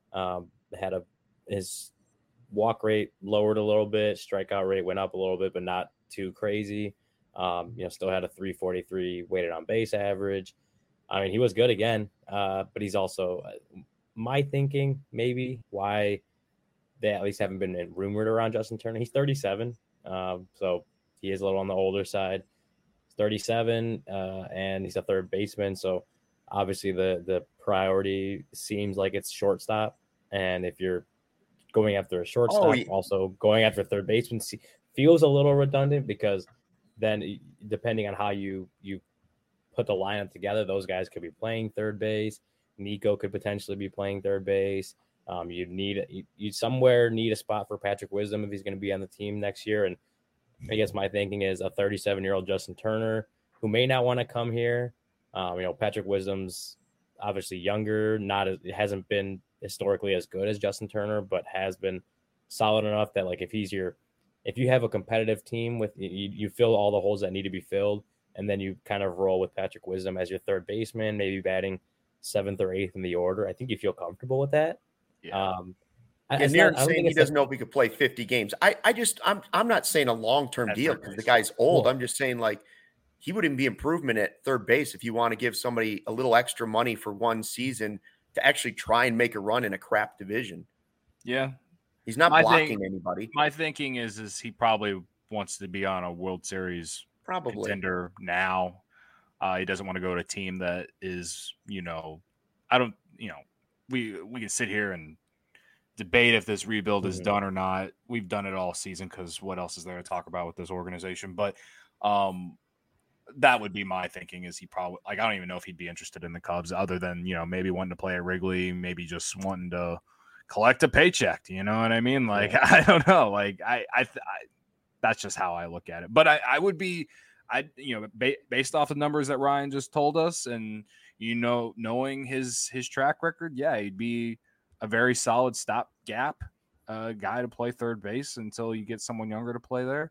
His walk rate lowered a little bit. Strikeout rate went up a little bit, but not too crazy. Still had a 343 weighted on base average. I mean, he was good again, but he's also my thinking maybe why they at least haven't been rumored around Justin Turner. He's 37, so he is a little on the older side. He's 37, and he's a third baseman. So obviously the priority seems like it's shortstop. And if you're going after a shortstop, also going after third baseman feels a little redundant, because then depending on how you put the lineup together, those guys could be playing third base. Nico could potentially be playing third base. You somewhere need a spot for Patrick Wisdom if he's going to be on the team next year. And I guess my thinking is a 37-year-old Justin Turner who may not want to come here. Patrick Wisdom's obviously younger, hasn't been historically as good as Justin Turner, but has been solid enough that, like, if you have a competitive team with you fill all the holes that need to be filled, and then you kind of roll with Patrick Wisdom as your third baseman, maybe batting 7th or 8th in the order. I think you feel comfortable with that. Yeah. Aaron's saying he doesn't know if he could play 50 games. I'm not saying a long-term deal because the guy's old. I'm just saying, like, he wouldn't be improvement at third base if you want to give somebody a little extra money for one season to actually try and make a run in a crap division. Yeah. He's not blocking anybody. My thinking is he probably wants to be on a World Series contender now. He doesn't want to go to a team that is, we can sit here and debate if this rebuild is done or not. We've done it all season because what else is there to talk about with this organization? But that would be my thinking, is he probably, like, I don't even know if he'd be interested in the Cubs other than, maybe wanting to play at Wrigley, maybe just wanting to collect a paycheck. You know what I mean? Like, I don't know. Like, I that's just how I look at it. But I would be, based off the numbers that Ryan just told us, and knowing his track record, he'd be a very solid stopgap guy to play third base until you get someone younger to play there.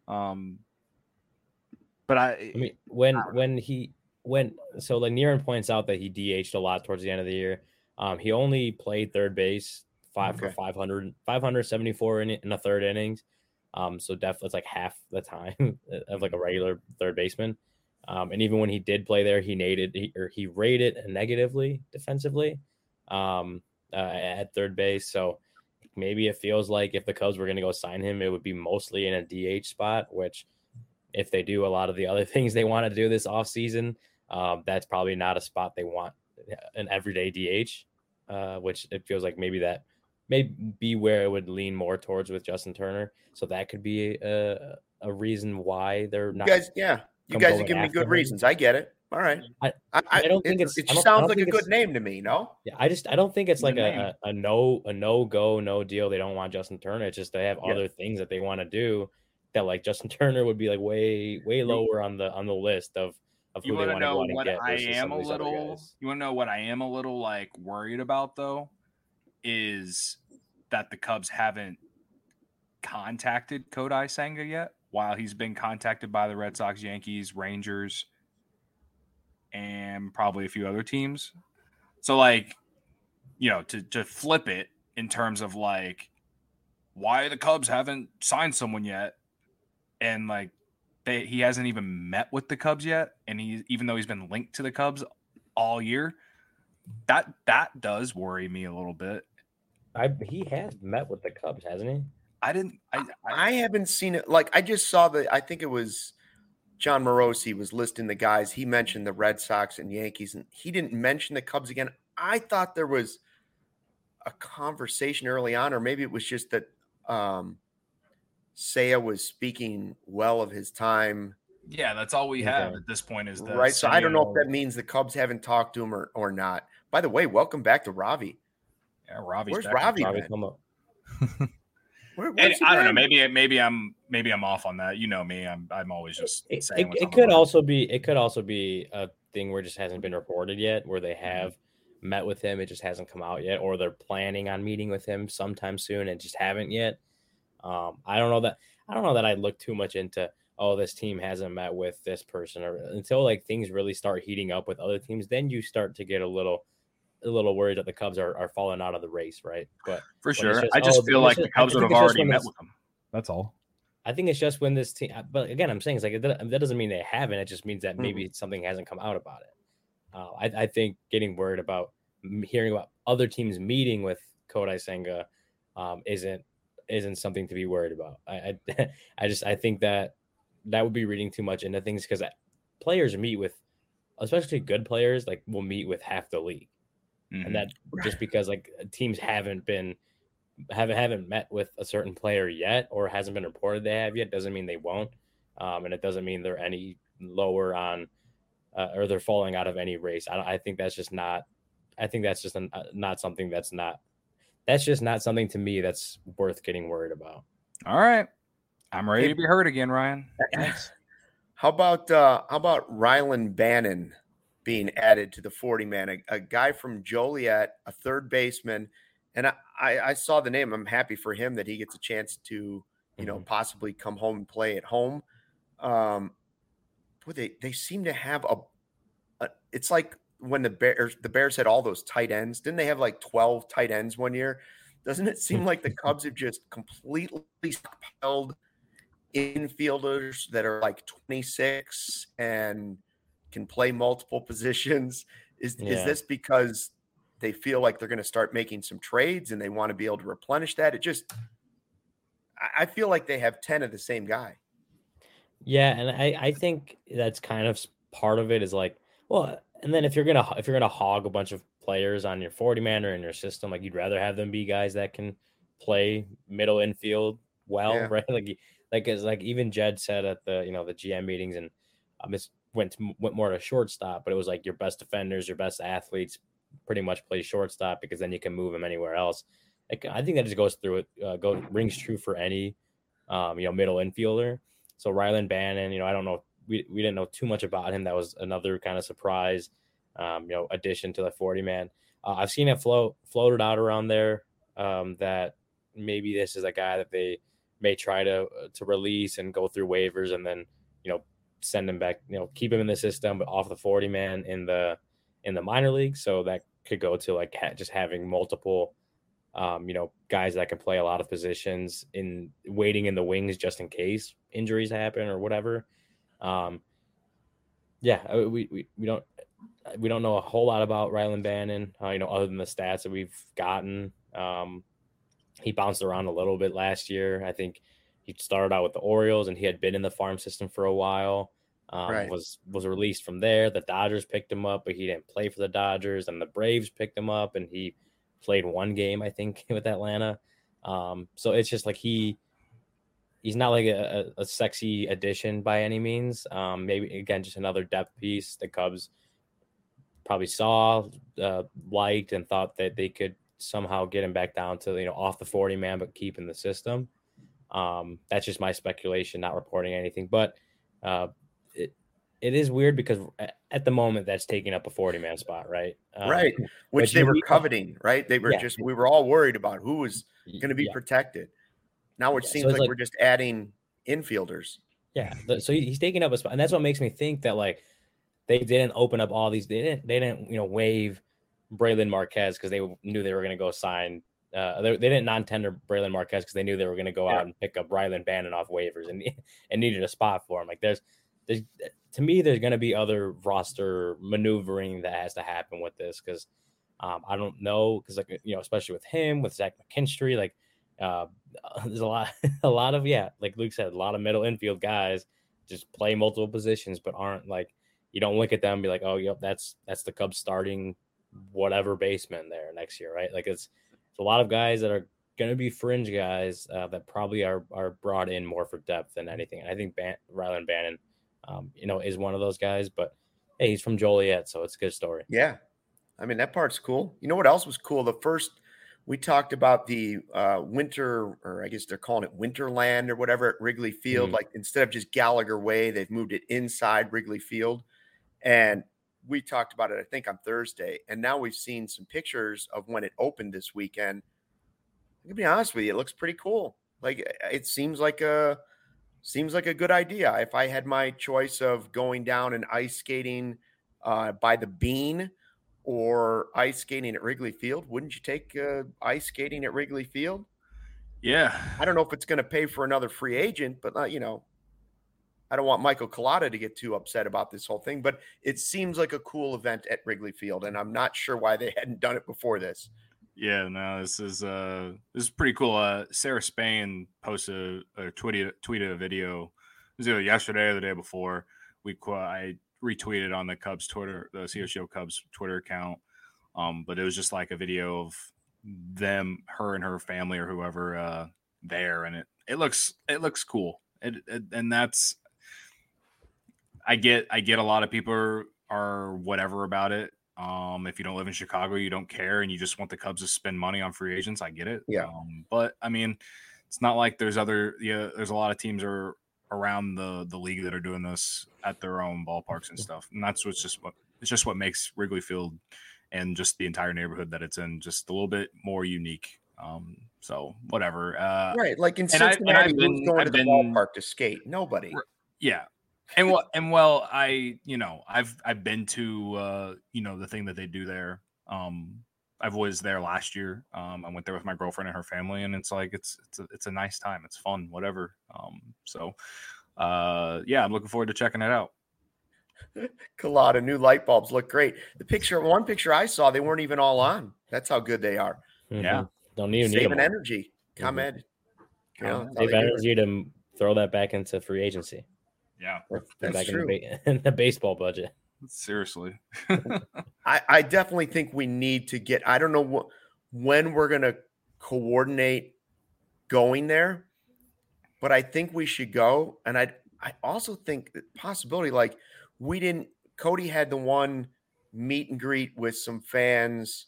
But I mean, when Nieren points out that he DH'd a lot towards the end of the year, he only played third base for 574 in a third innings. So definitely it's like half the time of like a regular third baseman. And even when he did play there, he rated negatively defensively at third base. So maybe it feels like if the Cubs were going to go sign him, it would be mostly in a DH spot, which if they do a lot of the other things they want to do this offseason, that's probably not a spot they want an everyday DH, which it feels like maybe that may be where it would lean more towards with Justin Turner. So that could be a reason why they're not. You guys are giving me good reasons. I get it. All right. I don't think it sounds like a good name to me. No. Yeah, I don't think it's like a no deal. They don't want Justin Turner. It's just they have other things that they want to do that, like, Justin Turner would be like way lower on the list of who they want to go out and get. You want to know what I am a little like worried about though, is that the Cubs haven't contacted Kodai Senga yet, while he's been contacted by the Red Sox, Yankees, Rangers, and probably a few other teams. So, like, to flip it in terms of, like, why the Cubs haven't signed someone yet, and, like, he hasn't even met with the Cubs yet, and even though he's been linked to the Cubs all year, that does worry me a little bit. He has met with the Cubs, hasn't he? I haven't seen it. Like, I just saw I think it was John Morosi was listing the guys. He mentioned the Red Sox and Yankees, and he didn't mention the Cubs again. I thought there was a conversation early on, or maybe it was just that Seiya was speaking well of his time. Yeah, that's all we have at this point is right. So I don't know if that means the Cubs haven't talked to him or not. By the way, welcome back to Ravi. Yeah, Ravi's Where's back. Ravi? I don't know. Maybe I'm off on that. You know me. I'm always just saying. It could also be a thing where it just hasn't been reported yet, where they have met with him, it just hasn't come out yet, or they're planning on meeting with him sometime soon and just haven't yet. I don't know that I'd look too much into, this team hasn't met with this person, or until like things really start heating up with other teams, then you start to get a little worried that the Cubs are falling out of the race, right? But for sure, I just feel like the Cubs would have already met with them. That's all. I think it's just when this team, but again, I'm saying it's like that doesn't mean they haven't. It just means that maybe something hasn't come out about it. I think getting worried about hearing about other teams meeting with Kodai Senga isn't something to be worried about. I think that that would be reading too much into things because players meet with, especially good players, like will meet with half the league, and that just because like teams haven't met with a certain player yet, or hasn't been reported they have yet, doesn't mean they won't, and it doesn't mean they're any lower on or they're falling out of any race. I think that's just not. I think that's just not something that's just not something to me that's worth getting worried about. All right. I'm ready to be heard again, Ryan. Thanks. How about Rylan Bannon being added to the 40-man? A guy from Joliet, a third baseman, and I saw the name. I'm happy for him that he gets a chance to, possibly come home and play at home. They seem to have it's like when the Bears had all those tight ends. Didn't they have like 12 tight ends one year? Doesn't it seem like the Cubs have just completely stockpiled infielders that are like 26 and can play multiple positions? Is this because they feel like they're going to start making some trades and they want to be able to replenish that? I feel like they have 10 of the same guy. Yeah, and I think that's kind of part of it is like, well, and then if you're gonna hog a bunch of players on your 40-man or in your system, like you'd rather have them be guys that can play middle infield well, right? Like even Jed said at the the GM meetings, and this went more to shortstop, but it was like your best defenders, your best athletes, pretty much play shortstop because then you can move them anywhere else. I think that just goes through it. Rings true for any middle infielder. So Rylan Bannon, I don't know. We didn't know too much about him. That was another kind of surprise, addition to the 40-man. I've seen it floated out around there that maybe this is a guy that they may try to release and go through waivers and then send him back, keep him in the system, but off the 40-man in the minor league. So that could go to like just having multiple guys that can play a lot of positions in waiting in the wings just in case injuries happen or whatever. We don't know a whole lot about Rylan Bannon, other than the stats that we've gotten. He bounced around a little bit last year. I think he started out with the Orioles and he had been in the farm system for a while. Was released from there. The Dodgers picked him up, but he didn't play for the Dodgers, and the Braves picked him up and he played one game, I think, with Atlanta. So it's just like he's not like a sexy addition by any means. Maybe, again, just another depth piece the Cubs probably saw, liked, and thought that they could somehow get him back down to, off the 40-man, but keep in the system. That's just my speculation, not reporting anything. But it is weird because at the moment that's taking up a 40-man spot, right? Right. Which they were coveting, right? They were we were all worried about who was going to be protected. Now it seems like we're just adding infielders. Yeah. So he's taking up a spot. And that's what makes me think that like they didn't open up all these. They didn't waive Braylon Marquez because they knew they were going to go sign. They didn't non-tender Braylon Marquez because they knew they were going to go out and pick up Rylan Bannon off waivers and needed a spot for him. Like there's to me, there's going to be other roster maneuvering that has to happen with this because I don't know because like especially with him, with Zach McKinstry, like there's a lot of like Luke said, a lot of middle infield guys just play multiple positions but aren't like you don't look at them and be like, oh yep, that's the Cubs starting whatever baseman there next year, right? Like it's a lot of guys that are going to be fringe guys that probably are brought in more for depth than anything. And I think Rylan Bannon is one of those guys, but hey, he's from Joliet, so it's a good story. Yeah. I mean, that part's cool. You know what else was cool? The first, we talked about the winter, or I guess they're calling it Winterland or whatever at Wrigley Field. Like instead of just Gallagher Way, they've moved it inside Wrigley Field. And we talked about it, I think, on Thursday. And now we've seen some pictures of when it opened this weekend. I'm gonna be honest with you, it looks pretty cool. Like it seems like a good idea. If I had my choice of going down and ice skating by the Bean or ice skating at Wrigley Field, wouldn't you take ice skating at Wrigley Field? Yeah. I don't know if it's going to pay for another free agent, but I don't want Michael Collada to get too upset about this whole thing, but it seems like a cool event at Wrigley Field, and I'm not sure why they hadn't done it before this. Yeah, no, this is pretty cool. Sarah Spain posted tweeted a video. It was either yesterday or the day before. I retweeted on the Cubs Twitter, the CHGO Cubs Twitter account. But it was just like a video of them, her and her family or whoever there, and it looks cool. And that's I get a lot of people are whatever about it. If you don't live in Chicago, you don't care, and you just want the Cubs to spend money on free agents. I get it. Yeah. But I mean, it's not like there's a lot of teams around the league that are doing this at their own ballparks and stuff. And that's what makes Wrigley Field and just the entire neighborhood that it's in just a little bit more unique. So whatever. Right. Like in Cincinnati, who's going to the ballpark to skate? Nobody. Yeah. I've been to the thing that they do there. I was there last year. I went there with my girlfriend and her family, and it's like it's a nice time. It's fun, whatever. I'm looking forward to checking it out. Colada, new light bulbs look great. One picture I saw, they weren't even all on. That's how good they are. Mm-hmm. Yeah, don't even saving energy. ComEd. Save energy to throw that back into free agency. Yeah, that's back true. In the baseball budget. Seriously. I definitely think we need to get, I don't know when we're going to coordinate going there, but I think we should go. And I also think the possibility, like Cody had the one meet and greet with some fans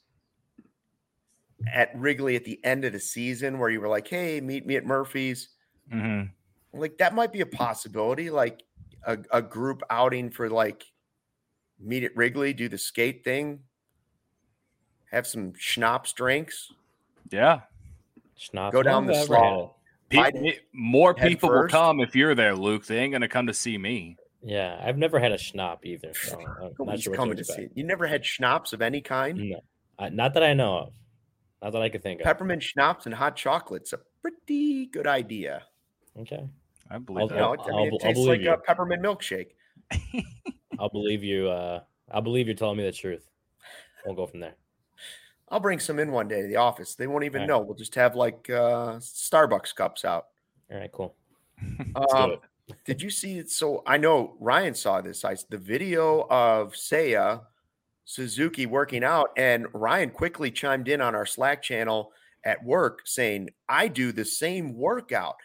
at Wrigley at the end of the season where you were like, hey, meet me at Murphy's. Mm-hmm. Like that might be a possibility, like a group outing for like meet at Wrigley, do the skate thing, have some schnapps drinks. Yeah. Schnapps. Go down the slide. More people will come if you're there, Luke. They ain't going to come to see me. Yeah, I've never had a schnapp either. So I'm not sure coming to see. You never had schnapps of any kind? No, not that I know of. Not that I could think of. Peppermint schnapps and hot chocolate's a pretty good idea. Okay. I believe that. It tastes like a peppermint milkshake. I'll believe you. I'll believe you're telling me the truth. We'll go from there. I'll bring some in one day to the office. They won't even know. We'll just have like Starbucks cups out. All right, cool. Did you see it? So I know Ryan saw this. The video of Seiya Suzuki working out, and Ryan quickly chimed in on our Slack channel at work saying, I do the same workout.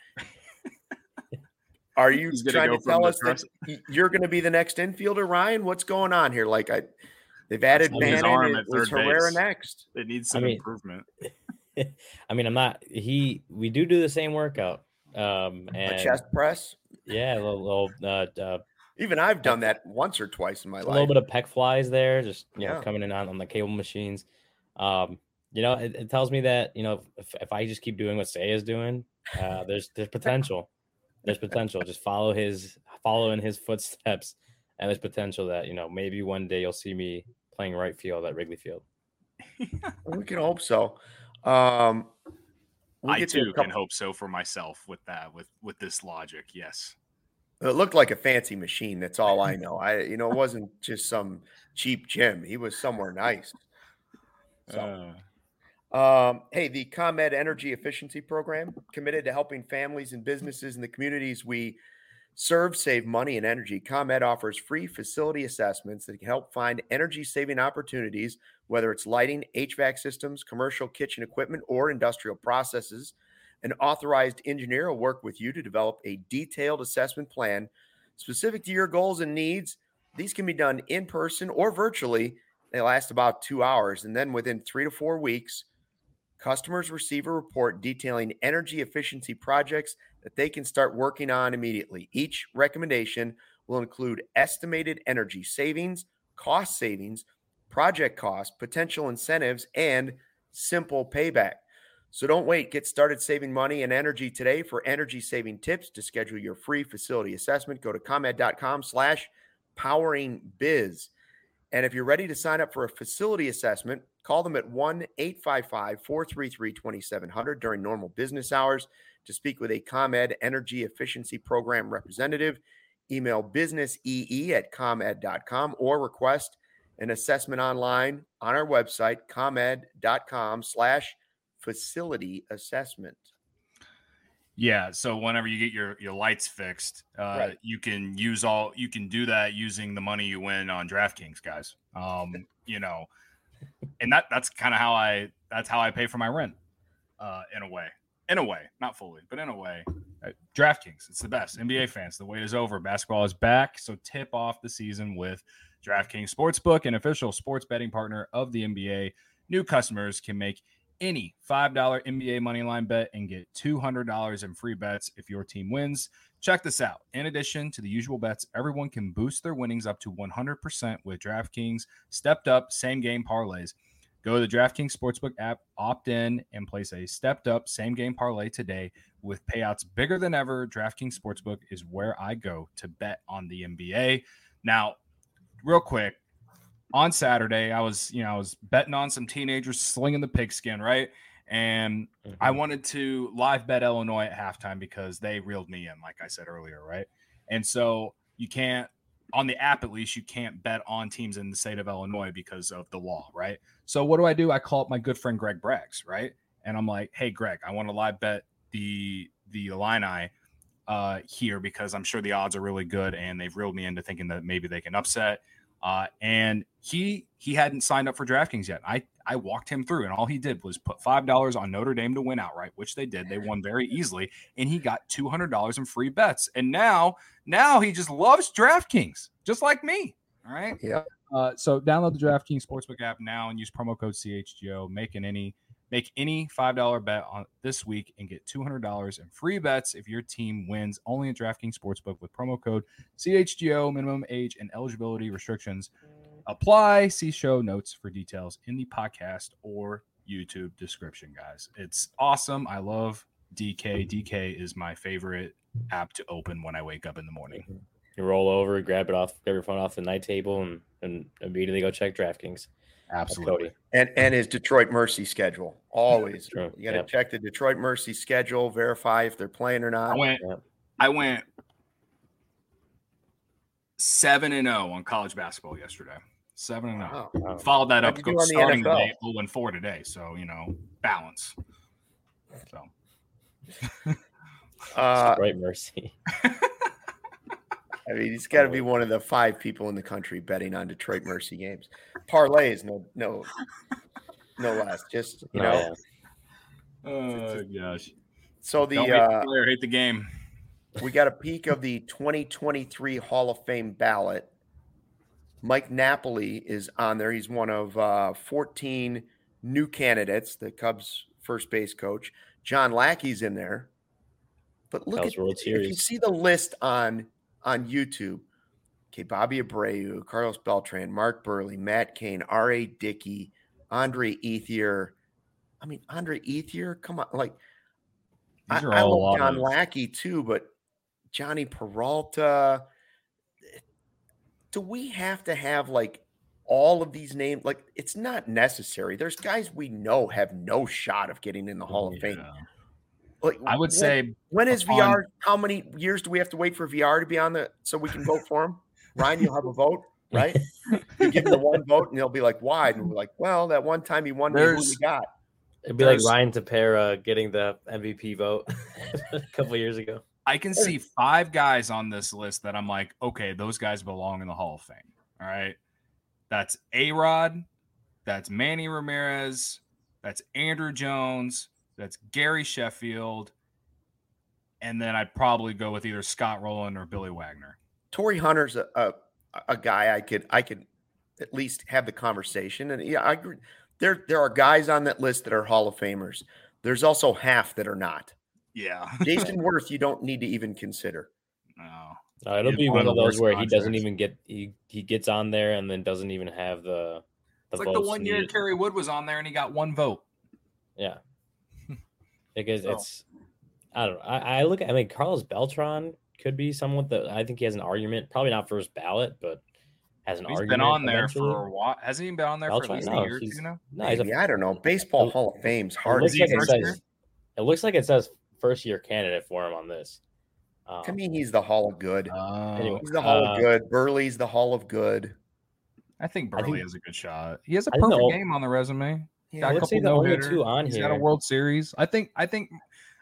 Are you trying to tell us that you're going to be the next infielder, Ryan? What's going on here? Like they've added Bannon and was Herrera next. It needs some improvement. I mean, I'm not. We do the same workout. And a chest press. Yeah, a little. Even I've done that once or twice in my life. A little bit of pec flies there, just coming in on the cable machines. It tells me that if I just keep doing what Seiya is doing, there's potential. There's potential. Just follow in his footsteps, and there's potential that maybe one day you'll see me playing right field at Wrigley Field. We can hope so. I too can hope so for myself with that. With this logic, yes. It looked like a fancy machine. That's all I know. It wasn't just some cheap gym. He was somewhere nice. So. Hey, the ComEd Energy Efficiency Program, committed to helping families and businesses in the communities we serve save money and energy. ComEd offers free facility assessments that can help find energy-saving opportunities, whether it's lighting, HVAC systems, commercial kitchen equipment, or industrial processes. An authorized engineer will work with you to develop a detailed assessment plan specific to your goals and needs. These can be done in person or virtually. They last about 2 hours, and then within 3 to 4 weeks, customers receive a report detailing energy efficiency projects that they can start working on immediately. Each recommendation will include estimated energy savings, cost savings, project costs, potential incentives, and simple payback. So don't wait. Get started saving money and energy today. For energy saving tips, to schedule your free facility assessment, go to comed.com/poweringbiz. And if you're ready to sign up for a facility assessment, call them at 1-855-433-2700 during normal business hours to speak with a ComEd Energy Efficiency Program representative. Email businessee@comed.com or request an assessment online on our website, comed.com/facility assessment. Yeah, so whenever you get your lights fixed, Right. you can do that using the money you win on DraftKings, guys. And that's kind of how I pay for my rent, in a way, not fully, but in a way. DraftKings, it's the best. NBA fans, the wait is over. Basketball is back, so tip off the season with DraftKings Sportsbook, an official sports betting partner of the NBA. New customers can make any $5 NBA moneyline bet and get $200 in free bets if your team wins. Check this out. In addition to the usual bets, everyone can boost their winnings up to 100% with DraftKings stepped up same game parlays. Go to the DraftKings Sportsbook app, opt in, and place a stepped up same game parlay today with payouts bigger than ever. DraftKings Sportsbook is where I go to bet on the NBA. Now, real quick, on Saturday, I was betting on some teenagers slinging the pigskin, right? And I wanted to live bet Illinois at halftime because they reeled me in, like I said earlier, right? And so you can't, on the app at least, you can't bet on teams in the state of Illinois because of the law, right? So what do? I call up my good friend Greg Braggs, right? And I'm like, hey, Greg, I want to live bet the Illini here because I'm sure the odds are really good, and they've reeled me into thinking that maybe they can upset. And he hadn't signed up for DraftKings yet. I walked him through, and all he did was put $5 on Notre Dame to win outright, which they did. They won very easily, and he got $200 in free bets. And now he just loves DraftKings, just like me. All right. Yeah. So download the DraftKings Sportsbook app now and use promo code CHGO. Make any $5 bet on this week and get $200 in free bets if your team wins. Only at DraftKings Sportsbook with promo code CHGO. Minimum age and eligibility restrictions apply. See show notes for details in the podcast or YouTube description, guys. It's awesome. I love DK. DK is my favorite app to open when I wake up in the morning. You roll over, grab your phone off the night table, and immediately go check DraftKings. Absolutely. And his Detroit Mercy schedule. Always. True. You got to check the Detroit Mercy schedule, verify if they're playing or not. I went 7-0 on college basketball yesterday. 7-0. Wow. Followed that up starting today, 0-4 today. So, balance. So. Detroit Mercy. I mean, he's got to be one of the 5 people in the country betting on Detroit Mercy games. Parlays, no less. Just Oh gosh. So the player hate the game. We got a peek of the 2023 Hall of Fame ballot. Mike Napoli is on there. He's one of 14 new candidates. The Cubs first base coach John Lackey's in there. But look at if you see the list on YouTube, okay, Bobby Abreu, Carlos Beltran, Mark Burley, Matt Cain, R.A. Dickey, Andre Ethier. I mean, Andre Ethier, come on. Like, I love John Lackey too, but Johnny Peralta. Do we have to have, like, all of these names? Like, it's not necessary. There's guys we know have no shot of getting in the Hall of Fame. Like, I would say, when is VR? How many years do we have to wait for VR to be on so we can vote for him? Ryan, you'll have a vote, right? You give him the one vote, and they'll be like, "Why?" And we're like, "Well, that one time he won, who we got." It'd be like Ryan Tepera getting the MVP vote a couple years ago. I can see 5 guys on this list that I'm like, okay, those guys belong in the Hall of Fame. All right, that's A-Rod, that's Manny Ramirez, that's Andrew Jones. That's Gary Sheffield, and then I'd probably go with either Scott Rowland or Billy Wagner. Torrey Hunter's a guy I could at least have the conversation, and yeah, I agree. There are guys on that list that are Hall of Famers. There's also half that are not. Yeah, Jason Worth, you don't need to even consider. No, it'll be one of those where he doesn't even get he gets on there and then doesn't even have the. It's like the one year Kerry Wood was on there and he got 1 vote. Yeah. Because it's, I don't know. I mean, Carlos Beltran could be someone that I think he has an argument, probably not first ballot, but has an argument. He's been on there for a while. Hasn't he been on there for at least a year or two now? No, I don't know. Baseball Hall of Fame's hard. It looks like it says first year candidate for him on this. To me, he's the Hall of Good. He's the Hall of Good. Burley's the Hall of Good. I think Burley has a good shot. He has a perfect game on the resume. Yeah, let's say the only 2 on He's here. got a World Series. I think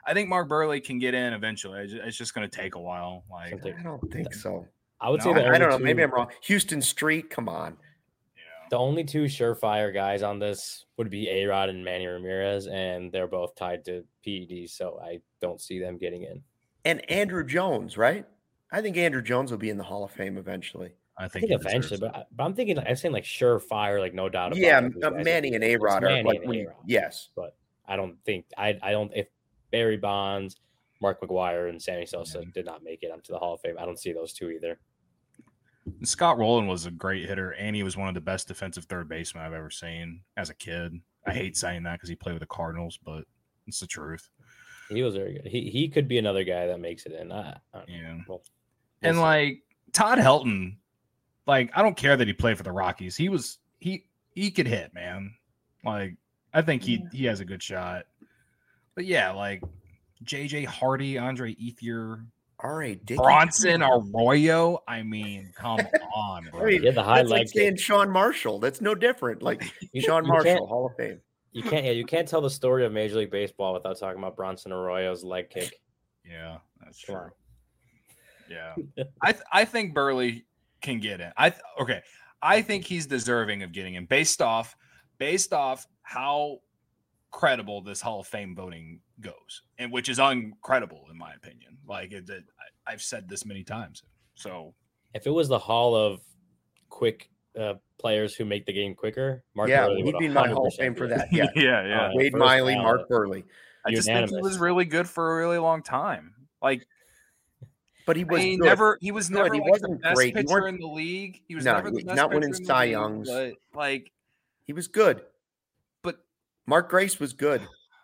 I think Mark Buehrle can get in eventually. It's just going to take a while. Like, I don't think so. I would say I don't know. Maybe I'm wrong. Houston Street, come on. The only two surefire guys on this would be A-Rod and Manny Ramirez, and they're both tied to PEDs, so I don't see them getting in. And Andrew Jones, right? I think Andrew Jones will be in the Hall of Fame eventually. I think eventually, but I'm thinking, I'm saying like surefire, like no doubt about it. Yeah, Manny and A-Rod are like, yes. But I don't think, I don't, if Barry Bonds, Mark McGwire, and Sammy Sosa did not make it onto the Hall of Fame, I don't see those two either. Scott Rowland was a great hitter, and he was one of the best defensive third basemen I've ever seen as a kid. I hate saying that because he played with the Cardinals, but it's the truth. He was very good. He could be another guy that makes it in. Well, and like Todd Helton, like I don't care that he played for the Rockies. He could hit, man. Like I think he has a good shot. But yeah, like JJ Hardy, Andre Ethier, Bronson Arroyo. I mean, come on, bro. Yeah, the high leg saying Sean Marshall. That's no different. Like Sean Marshall, Hall of Fame. You can't tell the story of Major League Baseball without talking about Bronson Arroyo's leg kick. Yeah, that's true. Yeah, I think Buehrle can get in. I think he's deserving of getting in based off how credible this Hall of Fame voting goes, and which is uncredible in my opinion. Like I've said this many times. So if it was the Hall of quick players who make the game quicker, Mark Buehrle he'd be in my Hall of Fame for that. Yeah, yeah. Wade Miley, Mark Buehrle. I just think he was really good for a really long time. Like, but he was He was never he like wasn't the best great. pitcher in the league. He was never the best not pitcher winning in the Cy league, Youngs. But like he was good. But Mark Grace was good.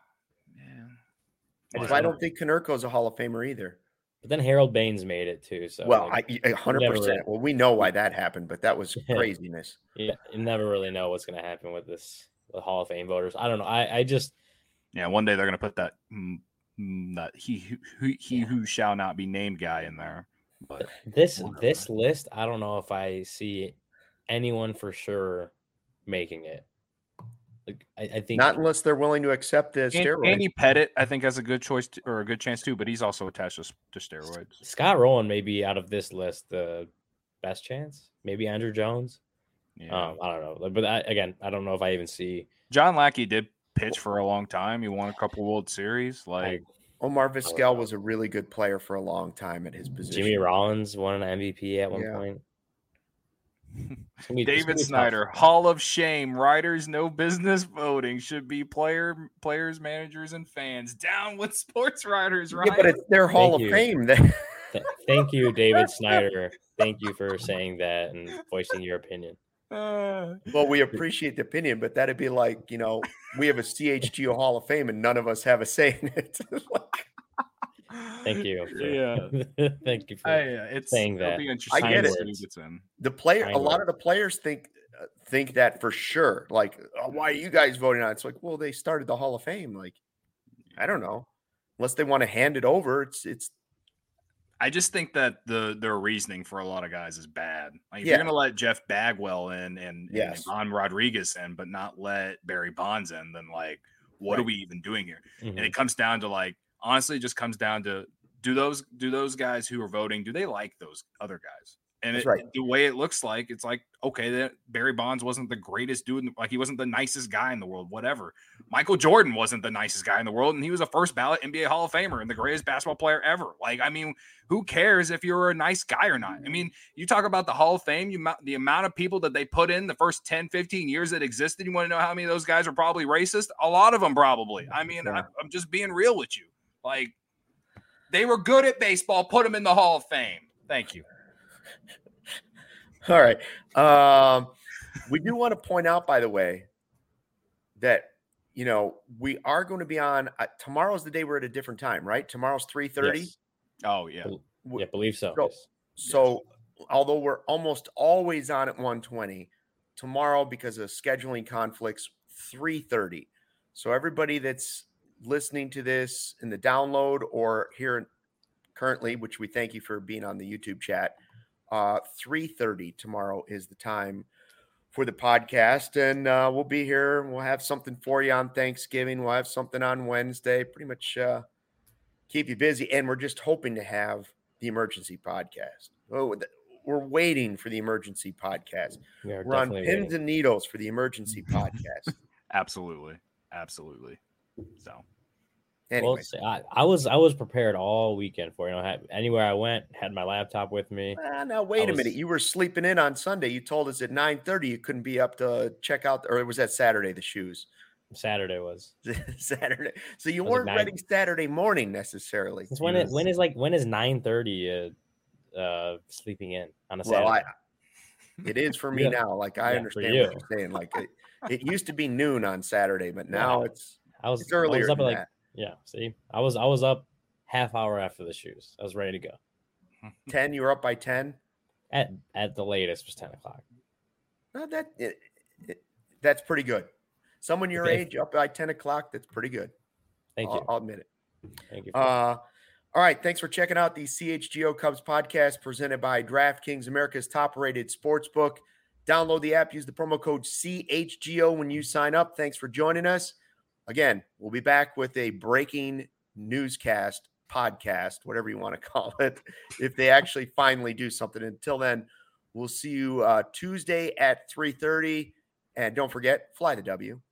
Man. I don't think Konerko's a Hall of Famer either. But then Harold Baines made it too. So 100%. Well, we know why that happened, but that was craziness. Yeah, you never really know what's going to happen with the Hall of Fame voters. I don't know. I just one day they're going to put that he who shall not be named guy in there. But this list, I don't know if I see anyone for sure making it. Like, I think not unless they're willing to accept the steroids. Andy Pettit, I think, has a good choice or a good chance too, but he's also attached to steroids. Scott Rowland may be out of this list the best chance. Maybe Andrew Jones. Yeah. I don't know, but I don't know if I even see. John Lackey did pitch for a long time. He won a couple World Series. Like Omar Vizquel was a really good player for a long time at his position. Jimmy Rollins won an MVP at one point. David Snyder, Hall of Shame. Writers, no business voting. Should be players, managers, and fans. Down with sports writers, right? Yeah, but it's their Hall of Fame. Thank you, David Snyder. Thank you for saying that and voicing your opinion. Well, we appreciate the opinion, but that'd be like, we have a CHGO Hall of Fame and none of us have a say in it. Thank you. Thank you for saying that. I get it. A lot of the players think that for sure. Like, why are you guys voting on it? It's like, well, they started the Hall of Fame. Like, I don't know. Unless they want to hand it over, it's. I just think that their reasoning for a lot of guys is bad. Like, if you're going to let Jeff Bagwell in and Ivan Rodriguez in, but not let Barry Bonds in, then like, what are we even doing here? Mm-hmm. And it comes down to like. Honestly, it just comes down to do those guys who are voting, do they like those other guys? And the way it looks like, it's like, okay, that Barry Bonds wasn't the greatest dude. Like, he wasn't the nicest guy in the world, whatever. Michael Jordan wasn't the nicest guy in the world, and he was a first ballot NBA Hall of Famer and the greatest basketball player ever. Like, I mean, who cares if you're a nice guy or not? I mean, you talk about the Hall of Fame, the amount of people that they put in the first 10, 15 years that existed. You want to know how many of those guys are probably racist? A lot of them probably. I mean, I'm just being real with you. Like, they were good at baseball. Put them in the Hall of Fame. Thank you. All right. We do want to point out, by the way, that, we are going to be on tomorrow's the day we're at a different time, right? Tomorrow's 3:30. Yes. Oh, yeah. I believe so. So although we're almost always on at 1:20, tomorrow, because of scheduling conflicts, 3:30. So everybody that's listening to this in the download or here currently, which we thank you for being on the YouTube chat, 3:30 tomorrow is the time for the podcast, and we'll be here. We'll have something for you on Thanksgiving. We'll have something on Wednesday. Pretty much keep you busy. And we're just hoping to have the emergency podcast. Oh, we're waiting for the emergency podcast. We're on pins and needles for the emergency podcast. Absolutely. So anyway, I was prepared all weekend for anywhere I went, had my laptop with me. Now wait a minute, you were sleeping in on Sunday. You told us at 9:30 you couldn't be up to check out, or was that Saturday? The shoes. Saturday was Saturday, so you weren't ready Saturday morning necessarily. When is 9:30? Sleeping in on a Saturday. Well, it is for me now. Like I understand what you're saying. Like it used to be noon on Saturday, but now it's earlier than that. Yeah, see, I was up half hour after the shoes. I was ready to go. 10. You were up by 10. At the latest was 10 o'clock. No, that's pretty good. Someone your age up by 10 o'clock. That's pretty good. Thank you. I'll admit it. Thank you. All right. Thanks for checking out the CHGO Cubs podcast presented by DraftKings, America's top-rated sportsbook. Download the app. Use the promo code CHGO when you sign up. Thanks for joining us. Again, we'll be back with a breaking newscast podcast, whatever you want to call it, if they actually finally do something. Until then, we'll see you Tuesday at 3:30. And don't forget, fly the W.